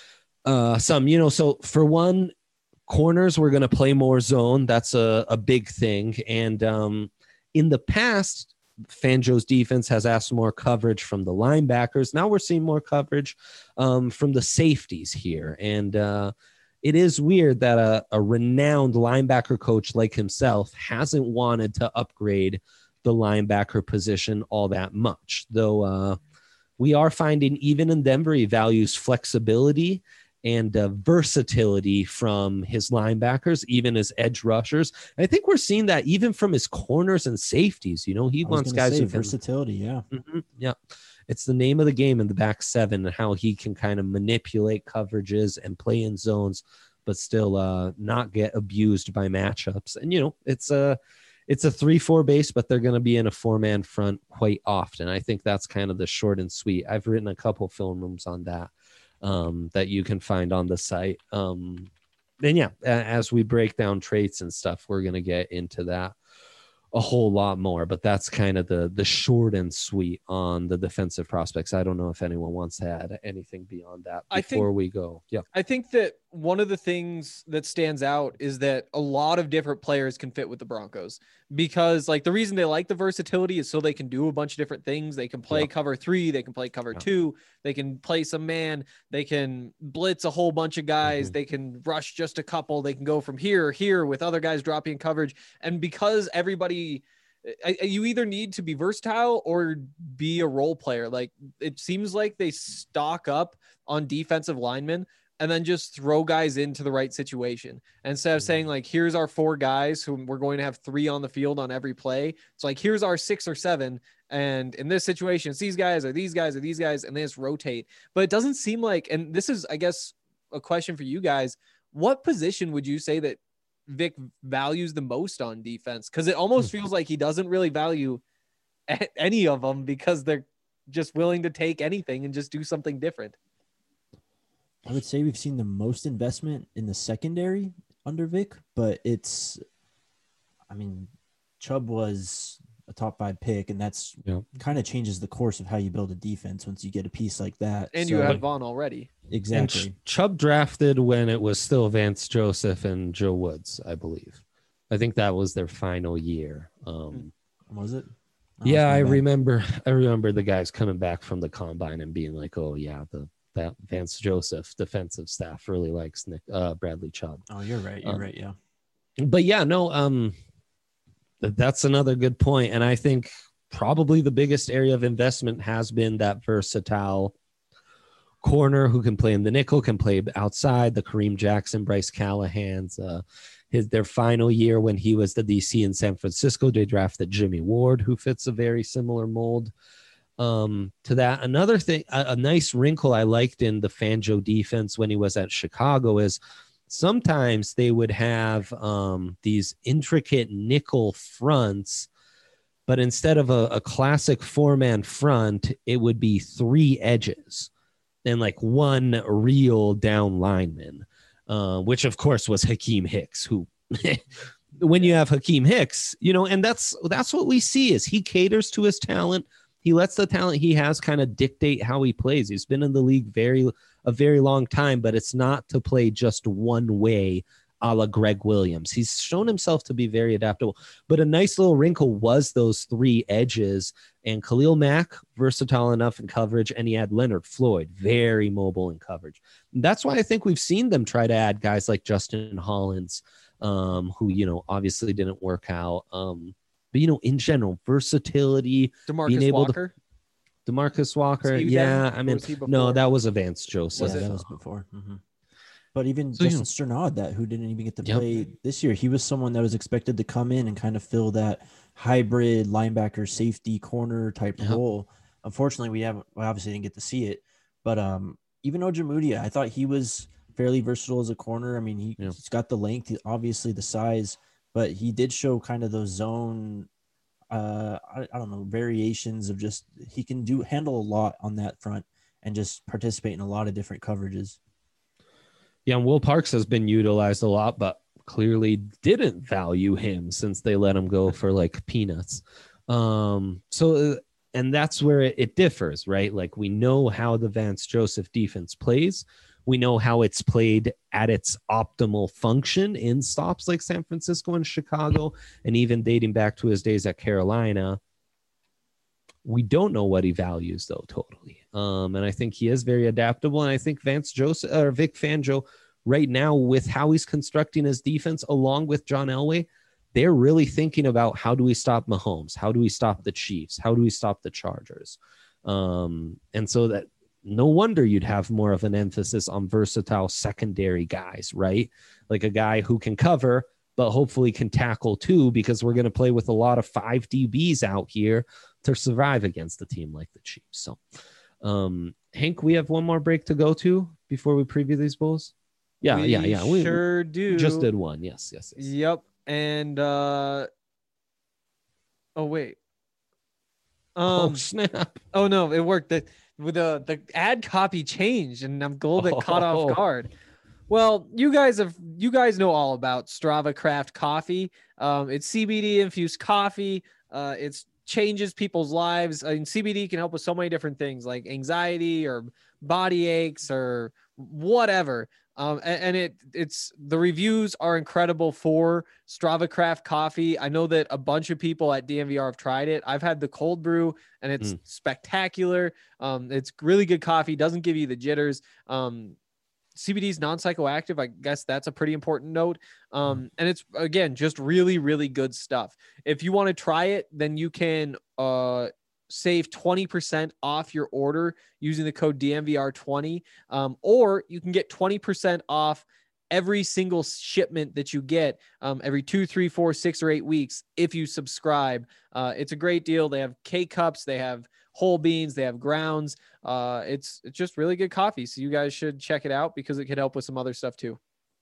Uh, some, you know, so for one, corners, we're going to play more zone. That's a, a big thing. And um, in the past, Fangio's defense has asked more coverage from the linebackers. Now we're seeing more coverage um, from the safeties here. And uh, it is weird that a, a renowned linebacker coach like himself hasn't wanted to upgrade the linebacker position all that much, though uh, we are finding even in Denver, he values flexibility and uh, versatility from his linebackers, even his edge rushers. And I think we're seeing that even from his corners and safeties. You know, he I was wants gonna guys say who can, versatility. Yeah. Mhm, yeah, it's the name of the game in the back seven and how he can kind of manipulate coverages and play in zones, but still uh, not get abused by matchups. And you know, it's a it's a three four base, but they're going to be in a four man front quite often. I think that's kind of the short and sweet. I've written a couple film rooms on that. Um, that you can find on the site. Um, and yeah, a- as we break down traits and stuff, we're going to get into that a whole lot more, but that's kind of the, the short and sweet on the defensive prospects. I don't know if anyone wants to add anything beyond that I think- before we go. Yeah. I think that one of the things that stands out is that a lot of different players can fit with the Broncos because like the reason they like the versatility is so they can do a bunch of different things. They can play Yeah. cover three, they can play cover Yeah. two, they can play some man, they can blitz a whole bunch of guys, Mhm. they can rush just a couple, they can go from here, here with other guys dropping coverage. And because everybody, I, I- you either need to be versatile or be a role player. Like it seems like they stock up on defensive linemen and then just throw guys into the right situation. Instead of saying like, here's our four guys who we're going to have three on the field on every play. It's like, here's our six or seven. And in this situation, it's these guys or these guys or these guys, and they just rotate. But it doesn't seem like, and this is, I guess, a question for you guys. What position would you say that Vic values the most on defense? Because it almost feels like he doesn't really value a- any of them because they're just willing to take anything and just do something different. I would say we've seen the most investment in the secondary under Vic, but it's, I mean, Chubb was a top five pick, and that's Yeah. kind of changes the course of how you build a defense once you get a piece like that. And So- you have Vaughn already. exactly. And Ch- Chubb drafted when it was still Vance Joseph and Joe Woods, I believe. I think that was their final year. Um, Was it? Oh, yeah, that's my I bad. remember. I remember the guys coming back from the combine and being like, "Oh yeah, the that Vance Joseph defensive staff really likes Nick uh, Bradley Chubb." Oh, you're right. You're Um, right. Yeah. But yeah, no, um, th- that's another good point, and I think probably the biggest area of investment has been that versatile corner who can play in the nickel, can play outside. The Kareem Jackson, Bryce Callahan's, uh, his their final year when he was the D C in San Francisco, they drafted Jimmy Ward, who fits a very similar mold um, to that. Another thing, a, a nice wrinkle I liked in the Fangio defense when he was at Chicago is sometimes they would have um, these intricate nickel fronts, but instead of a, a classic four-man front, it would be three edges and like one real down lineman, uh, which of course was Hakeem Hicks, who when you have Hakeem Hicks, you know, and that's that's what we see is he caters to his talent. He lets the talent he has kind of dictate how he plays. He's been in the league very a very long time, but it's not to play just one way a la Greg Williams. He's shown himself to be very adaptable. But a nice little wrinkle was those three edges. And Khalil Mack, versatile enough in coverage, and he had Leonard Floyd, very mobile in coverage. And that's why I think we've seen them try to add guys like Justin Hollins, um, who, you know, obviously didn't work out. Um, but, you know, in general, versatility, DeMarcus being able to- Walker. DeMarcus Walker. Was he Yeah, then, I or mean, was he no, before? that was a Vance Joseph. Was yeah, it? that was before. Mhm. But even So, you Justin Strnad, that who didn't even get to Yep. play this year, he was someone that was expected to come in and kind of fill that hybrid linebacker, safety, corner type Yep. role. Unfortunately, we haven't we obviously didn't get to see it. But um, even Ojemudia, I thought he was fairly versatile as a corner. I mean, he, Yeah. he's got the length, he- obviously the size, but he did show kind of those zone. Uh, I, I don't know, variations of just he can do handle a lot on that front and just participate in a lot of different coverages. Yeah, and Will Parks has been utilized a lot, but clearly didn't value him since they let him go for like peanuts. Um, so, uh, and that's where it, it differs, right? Like we know how the Vance Joseph defense plays. We know how it's played at its optimal function in stops like San Francisco and Chicago, and even dating back to his days at Carolina. We don't know what he values though, totally. Um, and I think he is very adaptable. And I think Vance Joseph or Vic Fangio right now with how he's constructing his defense along with John Elway, they're really thinking about how do we stop Mahomes? How do we stop the Chiefs? How do we stop the Chargers? Um, and so that no wonder you'd have more of an emphasis on versatile secondary guys, right? Like a guy who can cover, but hopefully can tackle too, because we're going to play with a lot of five D Bs out here to survive against a team like the Chiefs. So, um, Hank, we have one more break to go to before we preview these bowls. Yeah, We yeah, yeah. We, sure do. we just did one. Yes, yes, yes. Yep. And uh oh wait. Um oh snap! oh no, it worked. The with the the ad copy changed and I'm a little bit caught Oh. off guard. Well, you guys have you guys know all about Strava Craft coffee. Um, it's C B D infused coffee. Uh, it's changes people's lives. I mean, C B D can help with so many different things like anxiety or body aches or whatever. Um, and, and it it's the reviews are incredible for Strava Craft coffee. I know that a bunch of people at D M V R have tried it. I've had the cold brew and it's Mm. spectacular. Um, it's really good coffee. Doesn't give you the jitters. Um, C B D is non-psychoactive. I guess that's a pretty important note. Um, and it's again just really, really good stuff. If you want to try it, then you can uh save twenty percent off your order using the code D M V R twenty. Um, or you can get twenty percent off every single shipment that you get um, every two, three, four, six, or eight weeks if you subscribe. Uh, it's a great deal. They have K cups, they have whole beans, they have grounds. Uh, it's it's just really good coffee. So you guys should check it out because it could help with some other stuff too.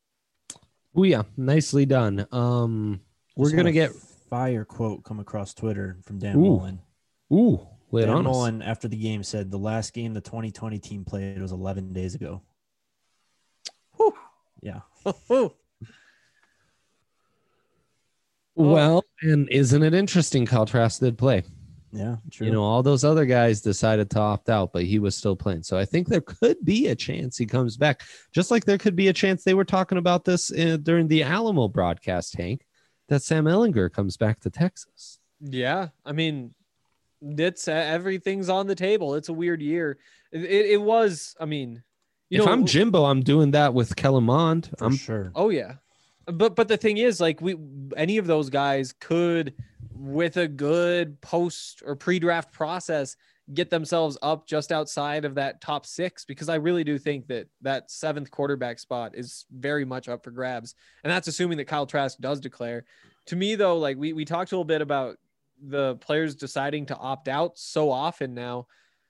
Oh yeah, nicely done. Um, we're Just had gonna a get fire quote come across Twitter from Dan Ooh. Mullen. ooh, lay it Dan on us. Mullen after the game said the last game the twenty twenty team played was eleven days ago. Whew. Yeah. Ooh. Well, and isn't it interesting? Kyle Trask did play. Yeah, true. You know, all those other guys decided to opt out, but he was still playing. So I think there could be a chance he comes back, just like there could be a chance they were talking about this in, during the Alamo broadcast, Hank, that Sam Ehlinger comes back to Texas. Yeah, I mean, it's uh, everything's on the table. It's a weird year. It, it, it was. I mean, you if know, I'm Jimbo, I'm doing that with Kellen Mond. For I'm sure. Oh yeah, but but the thing is, like, we any of those guys could, with a good post or pre-draft process, get themselves up just outside of that top six, because I really do think that that seventh quarterback spot is very much up for grabs. And that's assuming that Kyle Trask does declare. To me, though, like we, we talked a little bit about the players deciding to opt out so often now.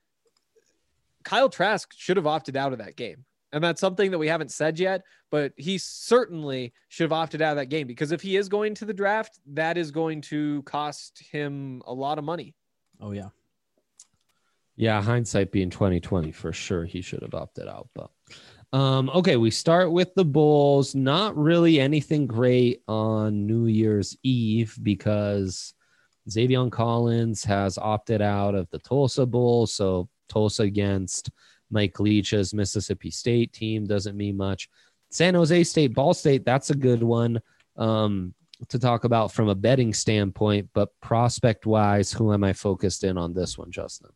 Kyle Trask should have opted out of that game. And that's something that we haven't said yet, but he certainly should have opted out of that game, because if he is going to the draft, that is going to cost him a lot of money. Oh yeah. Yeah, hindsight being twenty twenty, for sure he should have opted out. But um, okay, we start with the Bulls. Not really anything great on New Year's Eve, because Xavier Collins has opted out of the Tulsa Bowl. So Tulsa against Mike Leach's Mississippi State team doesn't mean much. San Jose State, Ball State, that's a good one um, to talk about from a betting standpoint. But prospect-wise, who am I focused in on this one, Justin?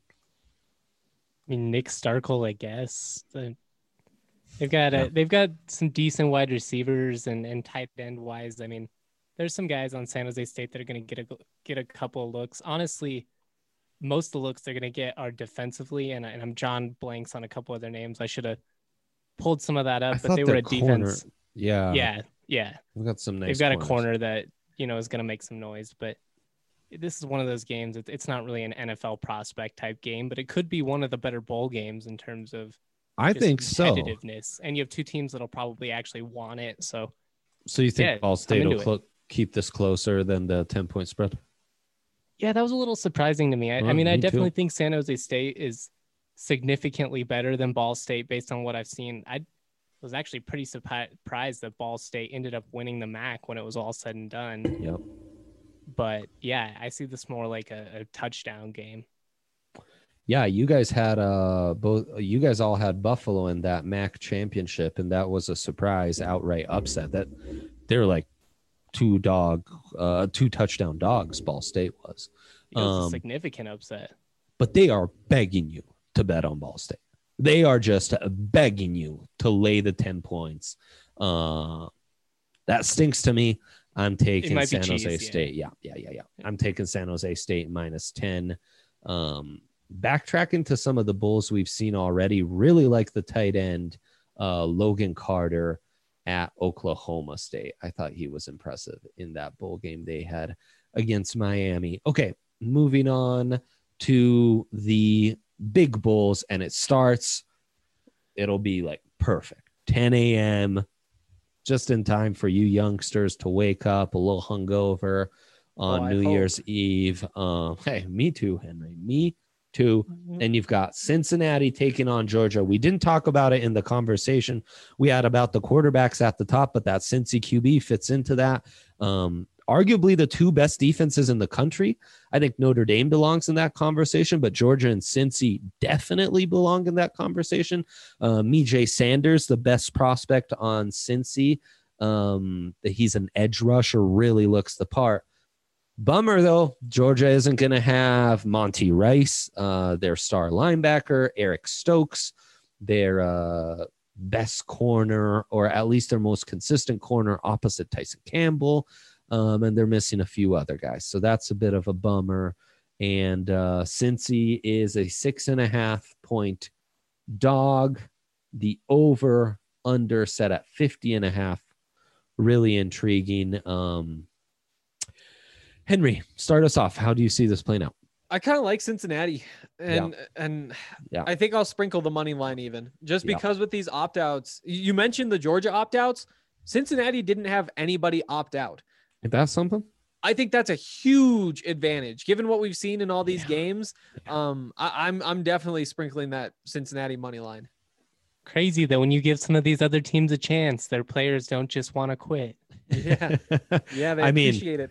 I mean, Nick Starkel, I guess. The, they've got a, Yeah. they've got some decent wide receivers and, and tight end wise. I mean, there's some guys on San Jose State that are going to get a get a couple of looks. Honestly, most of the looks they're going to get are defensively, and, and I'm John blanks on a couple of their names. I should have pulled some of that up, I but thought they were their a defense. corner- Yeah. Yeah, yeah. We've got some nice They've got corners. a corner that, you know, is going to make some noise, but this is one of those games. It's it's not really an N F L prospect type game, but it could be one of the better bowl games in terms of I just think so. competitiveness. And you have two teams that'll probably actually want it. So So you think Yeah, Ball State I'm will into clo- keep this closer than the ten-point spread? yeah, that was a little surprising to me. I, I Well, mean, I me too. definitely think San Jose State is significantly better than Ball State based on what I've seen. I was actually pretty surprised that Ball State ended up winning the M A C when it was all said and done. Yep. But yeah, I see this more like a, a touchdown game. Yeah, you guys had uh both you guys all had Buffalo in that M A C championship, and that was a surprise outright upset. That they're like two dog uh two touchdown dogs, Ball State was. It was Um, a significant upset. But they are begging you to bet on Ball State. They are just begging you to lay the ten points. Uh that stinks to me. I'm taking might be San cheese, Jose yeah. State. Yeah, yeah, yeah, yeah. I'm taking San Jose State minus ten. Um, backtracking to some of the Bulls we've seen already, really like the tight end, uh, Logan Carter at Oklahoma State. I thought he was impressive in that bowl game they had against Miami. Okay, moving on to the big Bulls, and it starts, it'll be like perfect. ten a.m., just in time for you youngsters to wake up a little hungover on Oh, I New hope. Year's Eve. Um, hey, me too, Henry. Me too. And you've got Cincinnati taking on Georgia. We didn't talk about it in the conversation we had about the quarterbacks at the top, but that Cincy Q B fits into that. Um, arguably the two best defenses in the country. I think Notre Dame belongs in that conversation, but Georgia and Cincy definitely belong in that conversation. Uh, Mijay Sanders, the best prospect on Cincy. Um, he's an edge rusher, really looks the part. Bummer, though, Georgia isn't going to have Monty Rice, uh, their star linebacker, Eric Stokes, their uh, best corner, or at least their most consistent corner opposite Tyson Campbell. Um, and they're missing a few other guys. So that's a bit of a bummer. And uh, Cincy is a six and a half point dog. The over under set at fifty and a half. Really intriguing. Um, Henry, start us off. How do you see this playing out? I kind of like Cincinnati, and and Yeah. I think I'll sprinkle the money line even, just Yeah. because with these opt outs. You mentioned the Georgia opt outs. Cincinnati didn't have anybody opt out. If that's something, I think that's a huge advantage given what we've seen in all these Yeah. games. Um, I, I'm I'm definitely sprinkling that Cincinnati money line. Crazy that when you give some of these other teams a chance, their players don't just want to quit. Yeah, yeah, they I mean, appreciate it.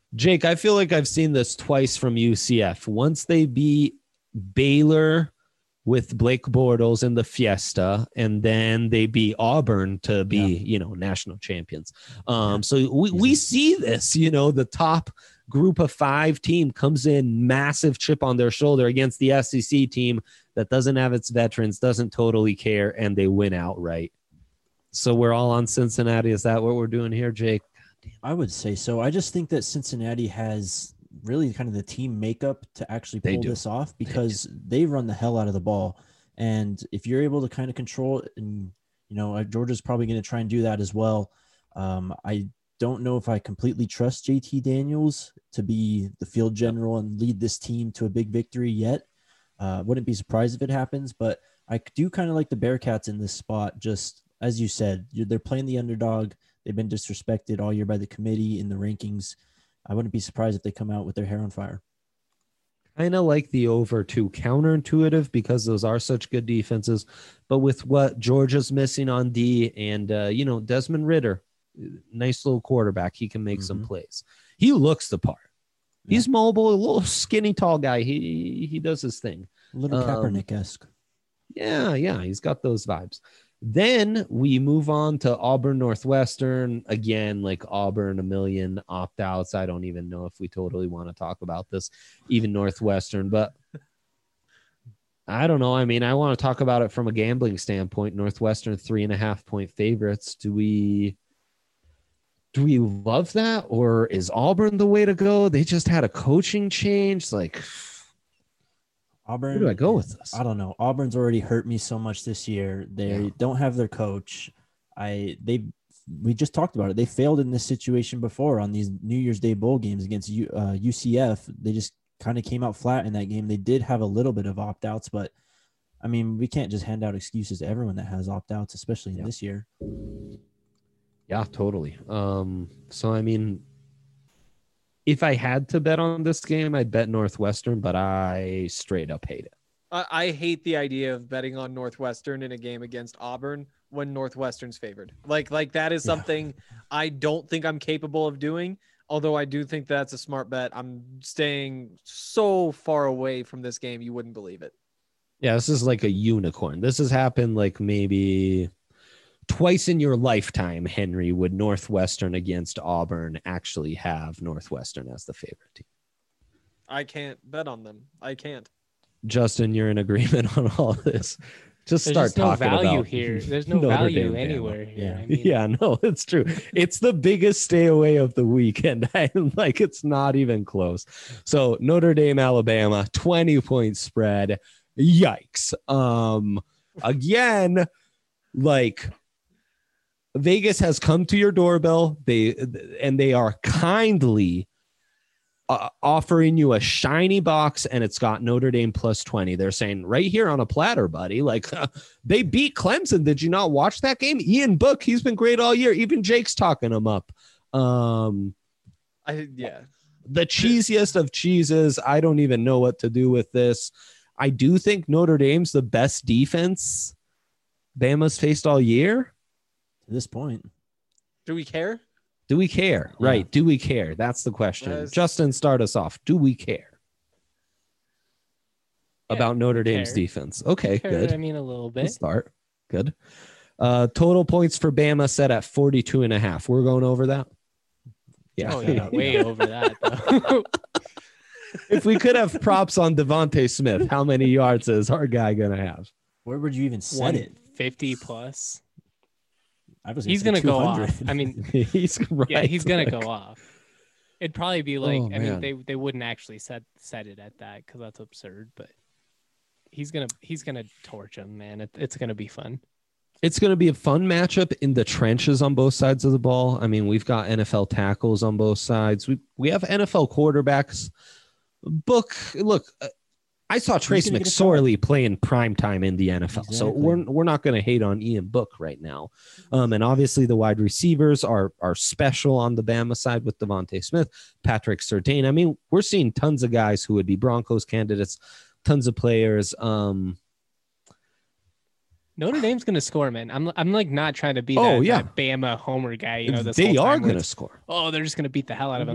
Jake, I feel like I've seen this twice from U C F. Once they beat Baylor with Blake Bortles in the Fiesta, and then they beat Auburn to be, yeah. you know, national champions. Um, yeah. So we, we see this, you know, the top group of five team comes in massive chip on their shoulder against the S E C team that doesn't have its veterans, doesn't totally care, and they win outright. So we're all on Cincinnati. Is that what we're doing here, Jake? I would say so. I just think that Cincinnati has really kind of the team makeup to actually pull this off, because they, they run the hell out of the ball. And if you're able to kind of control it, and, you know, Georgia's probably going to try and do that as well. Um, I don't know if I completely trust J T Daniels to be the field general and lead this team to a big victory yet. Uh, wouldn't be surprised if it happens, but I do kind of like the Bearcats in this spot. Just as you said, you're, they're playing the underdog. They've been disrespected all year by the committee in the rankings. I wouldn't be surprised if they come out with their hair on fire. Kind of like the over too, counterintuitive, because those are such good defenses. But with what Georgia's missing on D, and, uh, you know, Desmond Ridder, nice little quarterback, he can make mm-hmm. some plays. He looks the part. Yeah. He's mobile, a little skinny, tall guy. He he does his thing. A little Kaepernick-esque. Um, yeah, yeah, he's got those vibes. Then we move on to Auburn Northwestern. Again, like Auburn, a million opt-outs. I don't even know if we totally want to talk about this, even Northwestern. But I don't know. I mean, I want to talk about it from a gambling standpoint. Northwestern, three and a half point favorites. Do we do we love that? Or is Auburn the way to go? They just had a coaching change. Like, Auburn, where do I go with this? I don't know. Auburn's already hurt me so much this year. They yeah. don't have their coach. I they we just talked about it. They failed in this situation before on these New Year's Day bowl games against U, uh, U C F. They just kind of came out flat in that game. They did have a little bit of opt-outs, but I mean, we can't just hand out excuses to everyone that has opt-outs, especially yeah. this year. Yeah, totally. Um, so I mean, if I had to bet on this game, I'd bet Northwestern, but I straight up hate it. I, I hate the idea of betting on Northwestern in a game against Auburn when Northwestern's favored. Like, like that is something yeah. I don't think I'm capable of doing. Although I do think that's a smart bet. I'm staying so far away from this game, you wouldn't believe it. Yeah, this is like a unicorn. This has happened like maybe twice in your lifetime, Henry, would Northwestern against Auburn actually have Northwestern as the favorite team. I can't bet on them. I can't. Justin, you're in agreement on all this. Just There's start just no talking value about here. There's no value anywhere here. Yeah. I mean, yeah, no, it's true. It's the biggest stay away of the weekend. I'm like, it's not even close. So Notre Dame, Alabama, twenty point spread. Yikes. Um, again, like Vegas has come to your doorbell. They and they are kindly Uh, offering you a shiny box, and it's got Notre Dame plus twenty. They're saying right here on a platter, buddy. Like uh, they beat Clemson. Did you not watch that game? Ian Book, he's been great all year. Even Jake's talking him up. Um, I yeah, the cheesiest of cheeses. I don't even know what to do with this. I do think Notre Dame's the best defense Bama's faced all year. To this point, do we care? Do we care? Yeah. Right. Do we care? That's the question. Yes. Justin, start us off. Do we care yeah, about Notre Dame's care. defense? Okay, care, good. I mean, a little bit. Let's start. Good. Uh, total points for Bama set at forty-two and a half. We're going over that. Yeah. Oh, yeah. Way over that, though. If we could have props on Devontae Smith, how many yards is our guy going to have? Where would you even set it? fifty plus. I was he's gonna go off. I mean, he's right. Yeah, he's gonna like... go off. It'd probably be like, oh, I man. mean, they they wouldn't actually set set it at that because that's absurd. But he's gonna he's gonna torch him, man. It, it's gonna be fun. It's gonna be a fun matchup in the trenches on both sides of the ball. I mean, we've got N F L tackles on both sides. We we have N F L quarterbacks. Book look. Uh, I saw Trace McSorley playing prime time in the N F L, exactly. So we're we're not going to hate on Ian Book right now. Um, and obviously the wide receivers are are special on the Bama side with Devontae Smith, Patrick Surtain. I mean, we're seeing tons of guys who would be Broncos candidates, tons of players. Um, Notre Dame's going to score, man. I'm I'm like not trying to be oh, that, yeah. that Bama homer guy. You know, this they whole are time going to score. Oh, they're just going to beat the hell out mm-hmm. of him.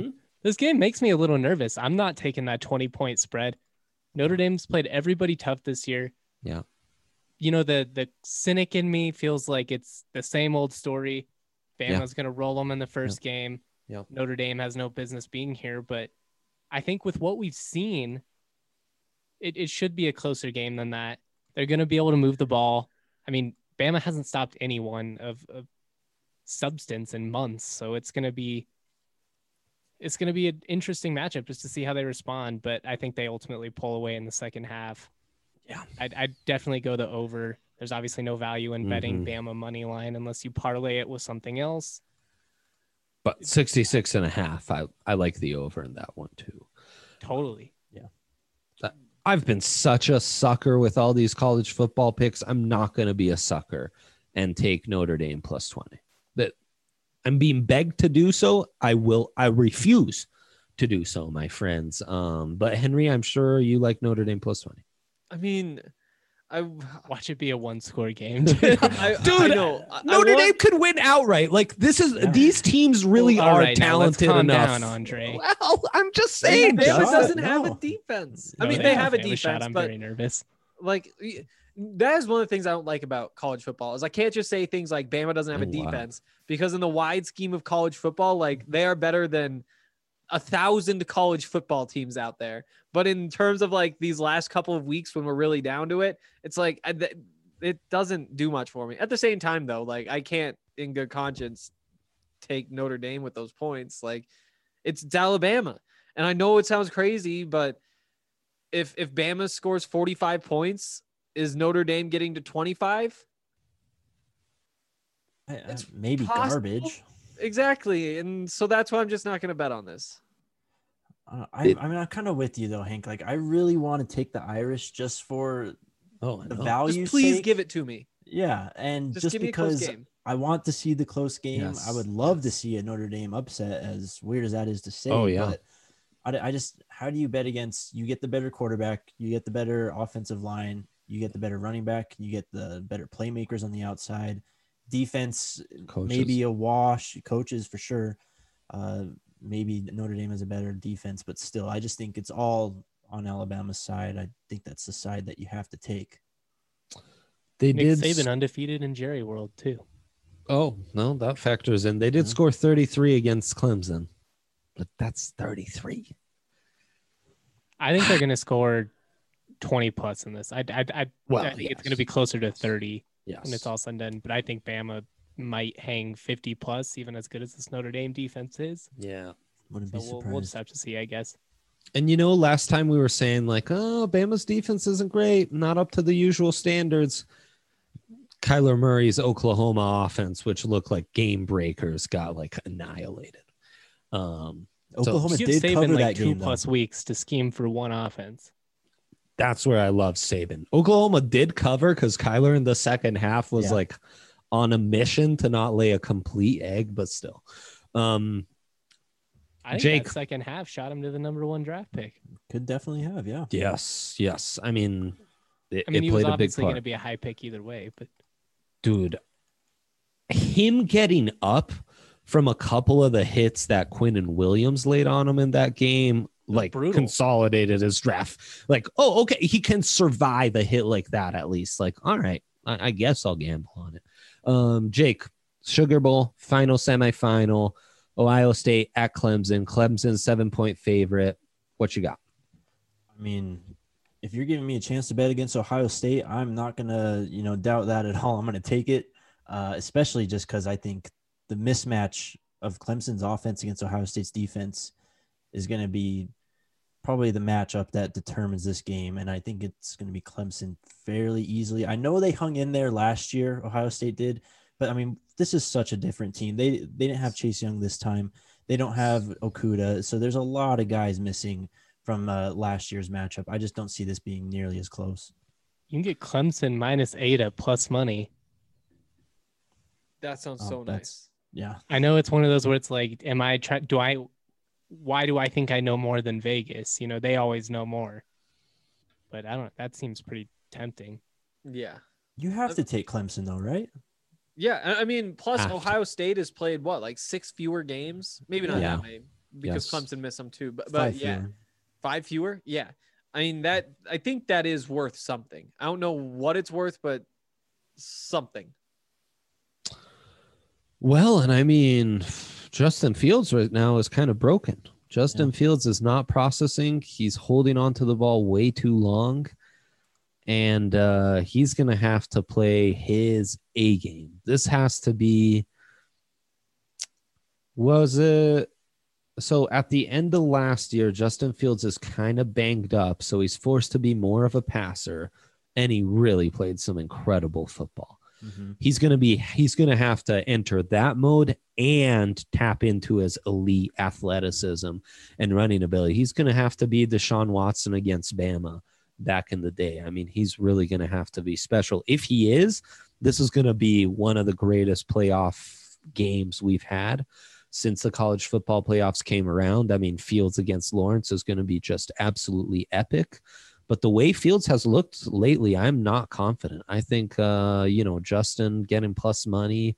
This game makes me a little nervous. I'm not taking that twenty point spread. Notre Dame's played everybody tough this year. Yeah. You know, the the cynic in me feels like it's the same old story. Bama's Yeah. going to roll them in the first game. Yeah. Notre Dame has no business being here. But I think with what we've seen, it, it should be a closer game than that. They're going to be able to move the ball. I mean, Bama hasn't stopped anyone of, of substance in months. So it's going to be it's going to be an interesting matchup just to see how they respond. But I think they ultimately pull away in the second half. Yeah. I'd, I'd definitely go the over. There's obviously no value in betting Mhm. Bama money line unless you parlay it with something else. But sixty-six and a half, I, I like the over in that one too. Totally. I've been such a sucker with all these college football picks. I'm not going to be a sucker and take Notre Dame plus twenty. That I'm being begged to do so. I will. I refuse to do so, my friends. Um, but Henry, I'm sure you like Notre Dame plus twenty. I mean, I Watch it be a one score game. I, Dude, I know. I- I Notre want- Dame could win outright. Like this is Yeah. these teams really Well, all are right, now let's talented calm enough. down, Andre. Well, I'm just saying. Bama Shut doesn't up. have a No. defense. No, I mean, they they don't have a have a shot. defense, I'm but very nervous. like y- that is one of the things I don't like about college football is I can't just say things like Bama doesn't have a Oh, wow. defense because in the wide scheme of college football, like they are better than a thousand college football teams out there. But in terms of like these last couple of weeks when we're really down to it, it's like I, th- it doesn't do much for me. At the same time, though, like I can't in good conscience take Notre Dame with those points. Like it's, it's Alabama, and I know it sounds crazy, but if if Bama scores forty-five points, is Notre Dame getting to twenty-five? I- I- It's maybe possible. garbage. Exactly, and so that's why I'm just not going to bet on this. Uh, I, It- I mean, I'm kind of with you though, Hank. Like, I really want to take the Irish just for Oh, I the know. value. Just please sake. give it to me. Yeah, and Just, just, give me a close because game. I want to see the close game. Yes, I would love to yes. see a Notre Dame upset, as weird as that is to say. Oh, yeah. But I, I just, how do you bet against? You get the better quarterback, you get the better offensive line, you get the better running back, you get the better playmakers on the outside. Defense, Coaches. maybe a wash. Coaches for sure. Uh, maybe Notre Dame has a better defense, but still, I just think it's all on Alabama's side. I think that's the side that you have to take. They Nick did. Saban undefeated in Jerry World too. Oh, no, that factors in. They did Yeah. score thirty-three against Clemson, but that's thirty-three. I think they're going to score twenty plus in this. I I I, Well, I think it's yes. going to be closer to thirty Yes. when it's all said and done. But I think Bama might hang fifty plus, even as good as this Notre Dame defense is. Yeah. Wouldn't So be we'll, surprised. we'll just have to see, I guess. And you know, last time we were saying like, oh, Bama's defense isn't great, not up to the usual standards. Kyler Murray's Oklahoma offense, which looked like game breakers, got like annihilated. Um, Oklahoma Give did Saban cover like that two game, though. plus weeks to scheme for one offense. that's where I love Saban. Oklahoma did cover because Kyler in the second half was Yeah. like on a mission to not lay a complete egg, but still. Um, I think Jake- that second half shot him to the number one draft pick. Could definitely have, yeah. yes, yes. I mean, it, I mean, it he was played a big obviously part. going to be a high pick either way, but Dude, him getting up from a couple of the hits that Quinn and Williams laid on him in that game, like brutal. consolidated his draft. Like, oh, okay, he can survive a hit like that at least. Like, all right, I, I guess I'll gamble on it. Um, Jake, Sugar Bowl, final semifinal, Ohio State at Clemson. Clemson seven point favorite. What you got? I mean, if you're giving me a chance to bet against Ohio State, I'm not gonna, you know, doubt that at all. I'm gonna take it, uh, especially just because I think the mismatch of Clemson's offense against Ohio State's defense is gonna be probably the matchup that determines this game, and I think it's gonna be Clemson fairly easily. I know they hung in there last year, Ohio State did, but I mean, this is such a different team. They they didn't have Chase Young this time. They don't have Okuda, so there's a lot of guys missing from uh, last year's matchup. I just don't see this being nearly as close. you can get Clemson minus eight at plus money. That sounds Oh, so that's- nice. Yeah, I know it's one of those where it's like, am I trying? Do I? Why do I think I know more than Vegas? You know, they always know more. But I don't. That seems pretty tempting. Yeah. you have to take Clemson though, right? Yeah. I I mean, plus Have to. Ohio State has played what, like six fewer games? Maybe not Yeah. that many. because Yes. Clemson missed some too. But, but Five yeah, fewer. five fewer. Yeah. I mean, that, I think that is worth something. I don't know what it's worth, but something. Well, and I mean, Justin Fields right now is kind of broken. Justin Yeah. Fields is not processing. He's holding on to the ball way too long. And uh, he's going to have to play his A game. This has to be, was it? So at the end of last year, Justin Fields is kind of banged up. So he's forced to be more of a passer. And he really played some incredible football. Mm-hmm. He's going to be, he's going to have to enter that mode and tap into his elite athleticism and running ability. He's going to have to be Deshaun Watson against Bama back in the day. I mean, he's really going to have to be special. If he is, this is going to be one of the greatest playoff games we've had since the college football playoffs came around. I mean, Fields against Lawrence is going to be just absolutely epic. But the way Fields has looked lately, I'm not confident. I think, uh, you know, Justin getting plus money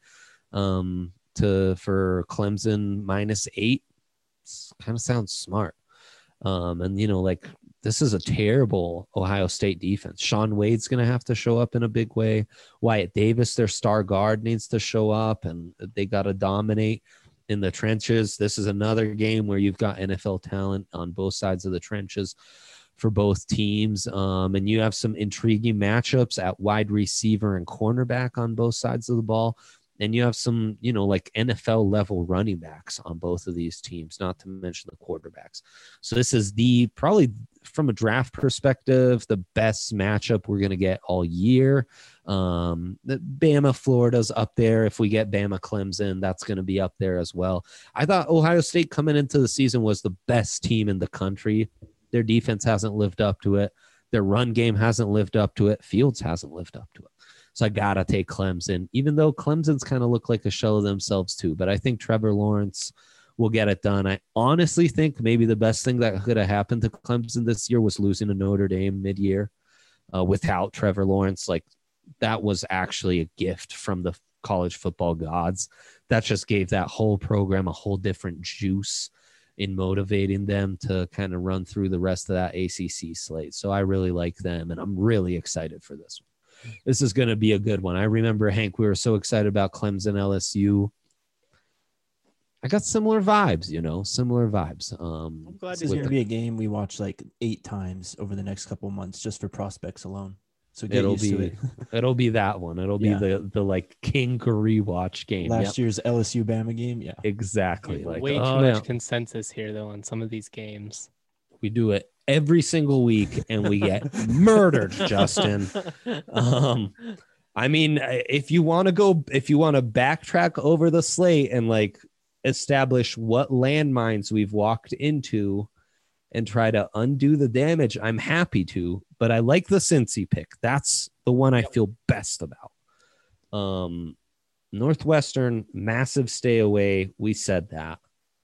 um, to for Clemson minus eight kind of sounds smart. Um, and, you know, like this is a terrible Ohio State defense. Sean Wade's going to have to show up in a big way. Wyatt Davis, their star guard, needs to show up, and they got to dominate in the trenches. This is another game where you've got N F L talent on both sides of the trenches for both teams. Um, and you have some intriguing matchups at wide receiver and cornerback on both sides of the ball. And you have some, you know, like N F L level running backs on both of these teams, not to mention the quarterbacks. So this is the, probably from a draft perspective, the best matchup we're going to get all year. Um, the Bama, Florida's up there. If we get Bama, Clemson, that's going to be up there as well. I thought Ohio State coming into the season was the best team in the country. Their defense hasn't lived up to it. Their run game hasn't lived up to it. Fields hasn't lived up to it. So I got to take Clemson, even though Clemson's kind of look like a shell of themselves too. But I think Trevor Lawrence will get it done. I honestly think maybe the best thing that could have happened to Clemson this year was losing to Notre Dame mid-year uh, without Trevor Lawrence. Like that was actually a gift from the college football gods. That just gave that whole program a whole different juice in motivating them to kind of run through the rest of that A C C slate. So I really like them, and I'm really excited for this one. This is going to be a good one. I remember, Hank, we were so excited about Clemson L S U. I got similar vibes, you know, similar vibes. Um, I'm glad This to is hear going to it. be a game we watch like eight times over the next couple of months just for prospects alone. So get It'll used to be it. it'll be that one. It'll be Yeah. the the like king rewatch game. Last Yep, year's L S U Bama game. Yeah. exactly. Like Way oh, too much yeah. consensus here, though, on some of these games. We do it every single week, and we get murdered, Justin. Um, I mean, if you want to go, if you want to backtrack over the slate and like establish what landmines we've walked into and try to undo the damage, I'm happy to. But I like the Cincy pick. That's the one I feel best about. Um, Northwestern, massive stay away. We said that.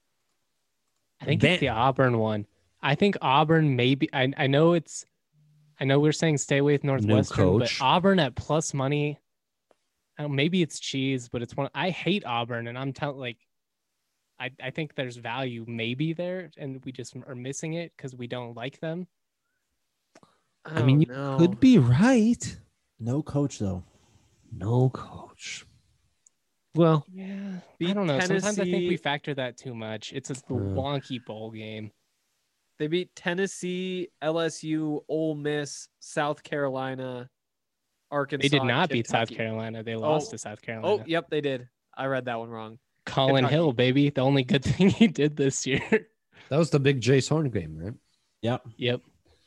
I think Van- it's the Auburn one. I think Auburn maybe. I I know it's. I know we're saying stay away with Northwestern, but coach. Auburn at plus money. I don't, maybe it's cheese, but it's one. I hate Auburn, and I'm telling like. I I think there's value maybe there, and we just are missing it because we don't like them. I mean, you know. could be right. No coach though. No coach. Well, Yeah, I Beat don't know. Sometimes I think we Tennessee- factor that too much. It's a Yeah. wonky bowl game. They beat Tennessee, L S U, Ole Miss, South Carolina, Arkansas. They did and not beat South Kentucky. Carolina. They lost Oh. to South Carolina. Oh, yep, they did. I read that one wrong. Colin Kentucky. Hill, baby. The only good thing he did this year. that was the big Jace Horn game, right? Yep. Yep.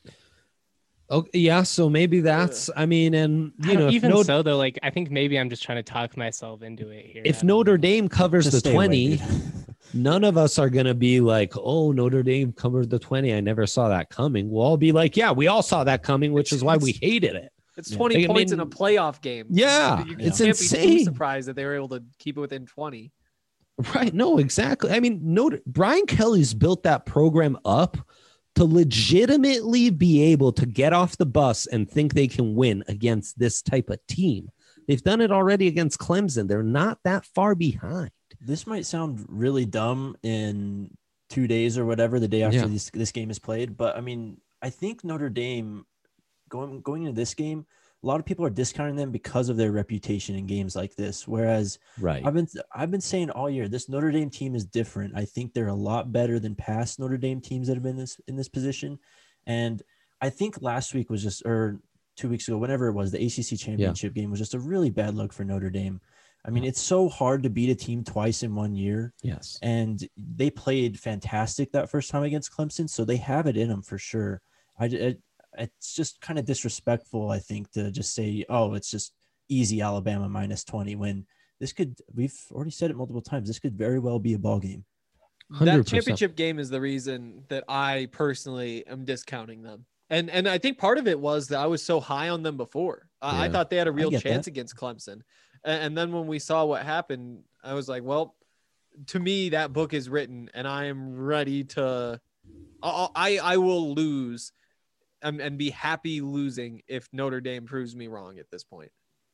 Okay, yeah. So maybe that's. I mean, and I you don't- know, if, even Notre, so, though, like I think maybe I'm just trying to talk myself into it here. I if don't know. Notre Dame covers Just the stay away, twenty, dude. none of us are gonna be like, "Oh, Notre Dame covered the twenty. I never saw that coming." We'll all be like, "Yeah, we all saw that coming," which is why we hated it. It's Yeah. twenty I points mean- in a playoff game. Yeah, you it's can't be insane. too surprised that they were able to keep it within twenty. Right. No, exactly. I mean, Notre, Brian Kelly's built that program up to legitimately be able to get off the bus and think they can win against this type of team. They've done it already against Clemson. They're not that far behind. This might sound really dumb in two days or whatever, the day after Yeah. this this game is played. But I mean, I think Notre Dame going going into this game, a lot of people are discounting them because of their reputation in games like this. Whereas Right. I've been I've been saying all year, this Notre Dame team is different. I think they're a lot better than past Notre Dame teams that have been this in this position. And I think last week was just, or two weeks ago, whenever it was, the A C C championship game was just a really bad look for Notre Dame. I mean, it's so hard to beat a team twice in one year. Yes. And they played fantastic that first time against Clemson, so they have it in them for sure. I, it, it's just kind of disrespectful, I think, to just say, oh, it's just easy Alabama minus twenty, when this could, we've already said it multiple times, this could very well be a ball game. one hundred That percent. championship game is the reason that I personally am discounting them. And and I think part of it was that I was so high on them before. I, I Yeah. thought they had a real get chance that. against Clemson. And, and then when we saw what happened, I was like, well, to me, that book is written and I am ready to, I, I, I will lose and, and be happy losing if Notre Dame proves me wrong at this point.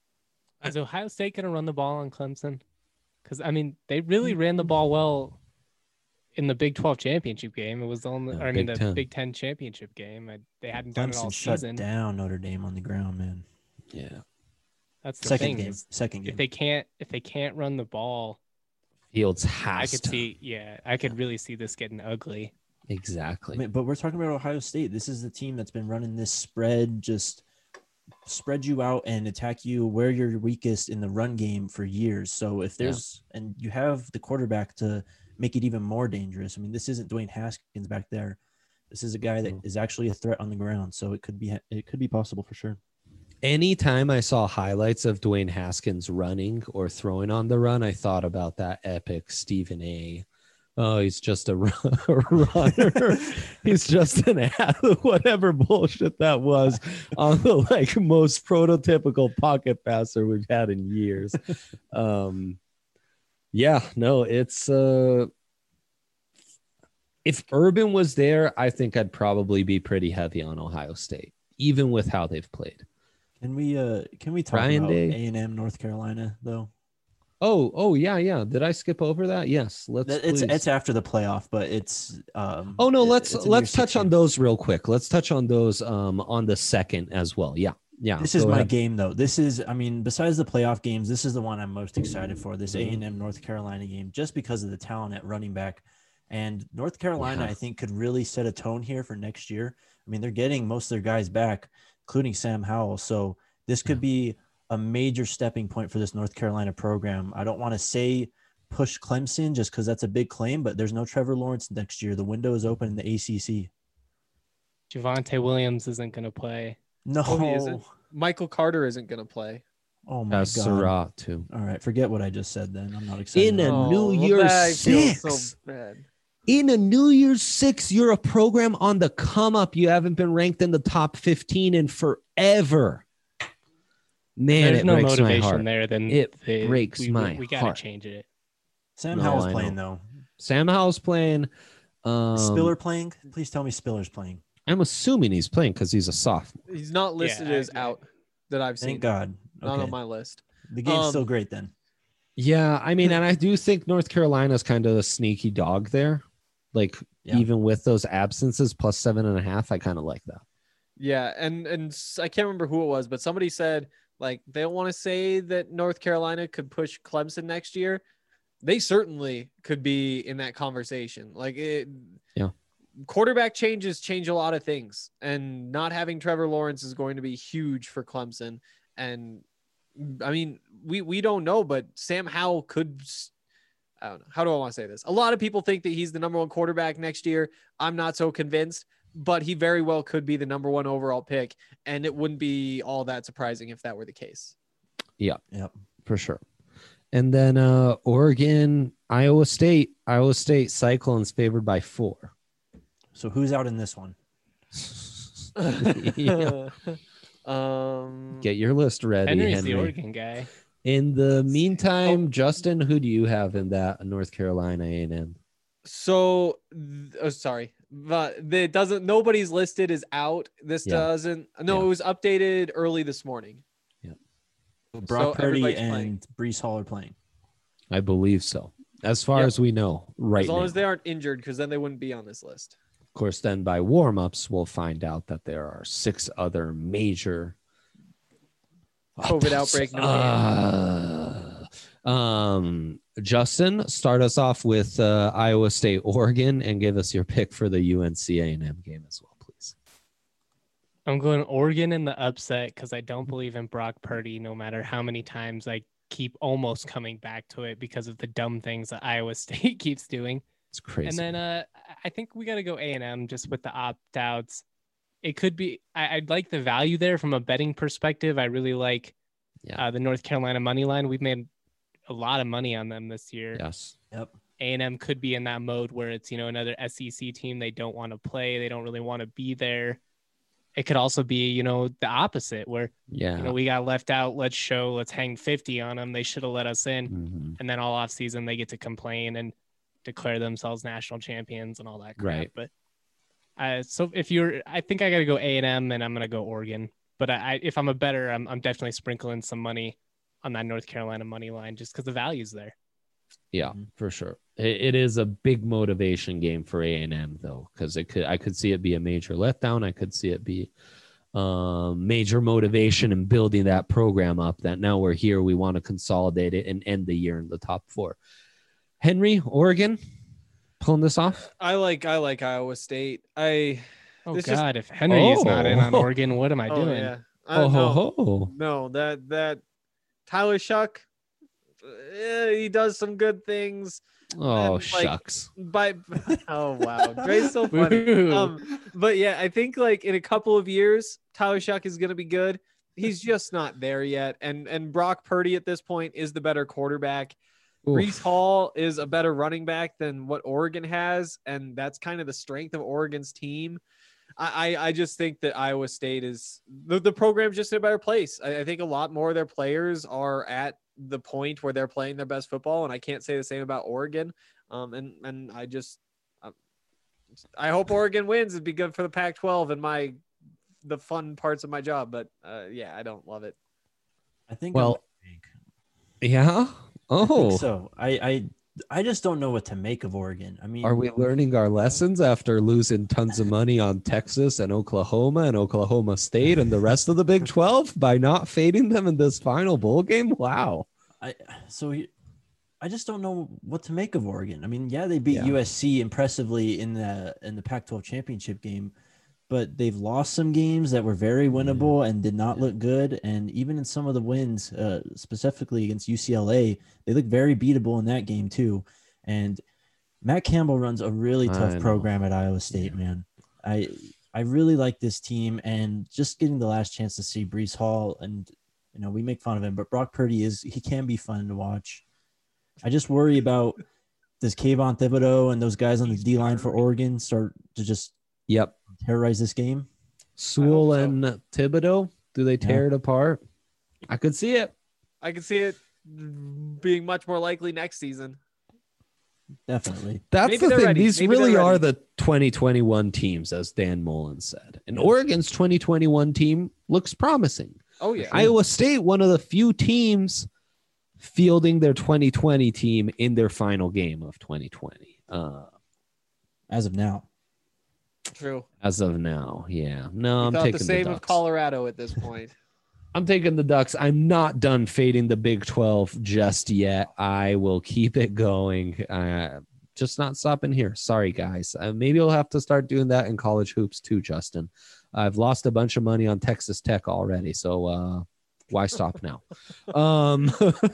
Is Ohio State going to run the ball on Clemson? Because, I mean, they really ran the ball well in the Big twelve championship game. It was the only, Yeah, or I mean, Big the ten. Big Ten championship game. I, they hadn't done it all Clemson shut season. down Notre Dame on the ground, man. Yeah. That's the Second thing. game. is Second If game. they can't, if they can't run the ball, Fields I has could to. see, yeah, I could really see this getting ugly. Exactly. I mean, but we're talking about Ohio State. This is the team that's been running this spread, just spread you out and attack you where you're weakest in the run game for years. So if there's, and you have the quarterback to make it even more dangerous. I mean, this isn't Dwayne Haskins back there. This is a guy that Mm. is actually a threat on the ground. So it could be, it could be possible for sure. Anytime I saw highlights of Dwayne Haskins running or throwing on the run, I thought about that epic Stephen A. Oh, he's just a run- runner. He's just an athlete, whatever bullshit that was on the like most prototypical pocket passer we've had in years. Um, yeah, no, it's uh, if Urban was there, I think I'd probably be pretty heavy on Ohio State, even with how they've played. Can we, uh, can we talk Ryan about Day. A and M North Carolina though? Oh, oh yeah, yeah. Did I skip over that? Yes. Let's. That- It's, please. it's after the playoff, but it's, um, Oh no, it- let's it's in let's year touch on sixteen. those real quick. Let's touch on those um on the second as well. Yeah, yeah. This is go my ahead. game though. This is, I mean, besides the playoff games, this is the one I'm most excited for. This A Mm-hmm. and M North Carolina game, just because of the talent at running back, and North Carolina, Yeah. I think, could really set a tone here for next year. I mean, they're getting most of their guys back, including Sam Howell. So this could be a major stepping point for this North Carolina program. I don't want to say push Clemson just because that's a big claim, but there's no Trevor Lawrence next year. The window is open in the A C C. Javonte Williams isn't going to play. No. Oh, he isn't? Michael Carter isn't going to play. Oh my As God. Surratt too. All right. Forget what I just said then. I'm not excited. In a about it. New Oh, well, Year's that feels so Six. bad. In a New Year's Six, you're a program on the come up. You haven't been ranked in the top fifteen in forever. Man, There's it no breaks my motivation heart. there. Then It they- breaks we, my we, we gotta heart. change it. Sam No, Howell's I playing know. though. Sam Howell's playing. Um, Spiller playing? Please tell me Spiller's playing. I'm assuming he's playing because he's a sophomore. He's not listed I- as I- out that I've seen. Thank God. Not Okay. on my list. The game's Um, still great then. Yeah, I mean, and I do think North Carolina's kind of a sneaky dog there. Like, Yeah. even with those absences, plus seven and a half, I kind of like that. Yeah, and and s- I can't remember who it was, but somebody said like they don't want to say that North Carolina could push Clemson next year. They certainly could be in that conversation. Like it, Yeah. Quarterback changes change a lot of things, and not having Trevor Lawrence is going to be huge for Clemson. And I mean, we we don't know, but Sam Howell could. s- I don't know. How do I want to say this? A lot of people think that he's the number one quarterback next year. I'm not so convinced, but he very well could be the number one overall pick. And it wouldn't be all that surprising if that were the case. Yep. For sure. And then uh, Oregon, Iowa State. Iowa State Cyclones favored by four. So who's out in this one? Yeah. um, Get your list ready, Henry's Henry. the Oregon guy. In the meantime, Oh. Justin, who do you have in that North Carolina A and M? So, th- oh, sorry, but it doesn't. Nobody's listed is out. This Yeah. doesn't. No, Yeah. it was updated early this morning. Brock Purdy everybody's and playing. Brees Hall are playing. I believe so. as far Yep. as we know right As long now. as they aren't injured, because then they wouldn't be on this list. Of course, then by warm-ups, we'll find out that there are six other major COVID outbreak, no game. Uh, um, Justin, start us off with uh, Iowa State, Oregon, and give us your pick for the U N C A and M game as well, please. I'm going Oregon in the upset because I don't believe in Brock Purdy, no matter how many times I keep almost coming back to it because of the dumb things that Iowa State keeps doing. It's crazy. And then uh, I think we got to go A and M just with the opt-outs. It could be I, I'd like the value there from a betting perspective. I really like yeah. uh, the North Carolina money line. We've made a lot of money on them this year. Yes. Yep. A and M could be in that mode where it's, you know, another S E C team. They don't want to play. They don't really want to be there. It could also be, you know, the opposite where, Yeah. you know, we got left out. Let's show, let's hang fifty on them. They should have let us in. Mhm. And then all off season, they get to complain and declare themselves national champions and all that crap. Right. But uh, so if you're, I think I got to go A and M and I'm going to go Oregon. But I, I, if I'm a better, I'm, I'm definitely sprinkling some money on that North Carolina money line just because the value's there. Yeah, Mhm. for sure. It, it is a big motivation game for A and M though, because it could I could see it be a major letdown. I could see it be um, major motivation in building that program up. That now we're here, we want to consolidate it and end the year in the top four. Henry, Oregon, pulling this off. I like I like Iowa State. I Oh This just- God, if Henry is not in on Oh. Oregon, what am I oh doing? yeah. I, Oh no, ho ho! no, that that Tyler Shuck, eh, he does some good things. Oh And, like, shucks! By oh wow, Dre's so funny. Woo. Um, but yeah, I think like in a couple of years, Tyler Shuck is gonna be good. He's just not there yet, and and Brock Purdy at this point is the better quarterback. Oof. Brees Hall is a better running back than what Oregon has, and that's kind of the strength of Oregon's team. I, I, I just think that Iowa State is the, the program's just in a better place. I, I think a lot more of their players are at the point where they're playing their best football, and I can't say the same about Oregon. Um, and and I just I, I hope Oregon wins. It'd be good for the Pac twelve and my the fun parts of my job. But uh, yeah, I don't love it. I think. Well, I'm- Yeah. I think Oh, so. I, I I just don't know what to make of Oregon. I mean, are we learning our lessons after losing tons of money on Texas and Oklahoma and Oklahoma State and the rest of the Big twelve by not fading them in this final bowl game? Wow. I so he- I just don't know what to make of Oregon. I mean, yeah, they beat Yeah. U S C impressively in the in the Pac twelve championship game, but they've lost some games that were very winnable and did not look good. And even in some of the wins, uh, specifically against U C L A, they look very beatable in that game too. And Matt Campbell runs a really I tough know. program at Iowa State, man. I I really like this team, and just getting the last chance to see Brees Hall, and you know, we make fun of him, but Brock Purdy is he can be fun to watch. I just worry about does Kayvon Thibodeau and those guys on the D line for Oregon start to just Yep. terrorize this game? Sewell so. and Thibodeau, do they tear it apart? I could see it. I can see it being much more likely next season. Definitely. That's Maybe the they're thing. ready. These Maybe they're really are ready. the twenty twenty-one teams, as Dan Mullen said. And Oregon's twenty twenty-one team looks promising. Oh yeah. Iowa State, one of the few teams fielding their twenty twenty team in their final game of twenty twenty. Uh, As of now. True. as of now, yeah. No, We I'm thought taking the same the of Ducks. Colorado at this point. I'm taking the Ducks. I'm not done fading the Big twelve just yet. I will keep it going. Uh, just not stopping here. Sorry, guys. Uh, maybe I'll have to start doing that in college hoops too, Justin. I've lost a bunch of money on Texas Tech already, so uh, why stop now? um,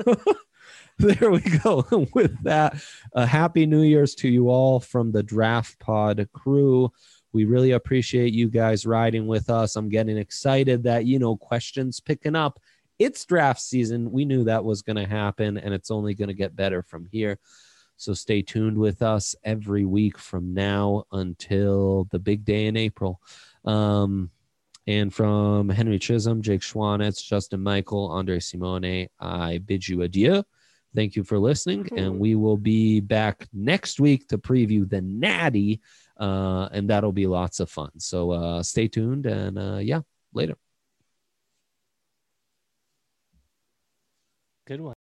there we go. With that, a happy New Year's to you all from the Draft Pod crew. We really appreciate you guys riding with us. I'm getting excited that, you know, questions picking up. It's draft season. We knew that was going to happen, and it's only going to get better from here. So stay tuned with us every week from now until the big day in April. Um, and from Henry Chisholm, Jake Schwanitz, Justin Michael, Andre Simone, I bid you adieu. Thank you for listening, and we will be back next week to preview the Natty, uh, and that'll be lots of fun. So uh, stay tuned, and uh, yeah, later. Good one.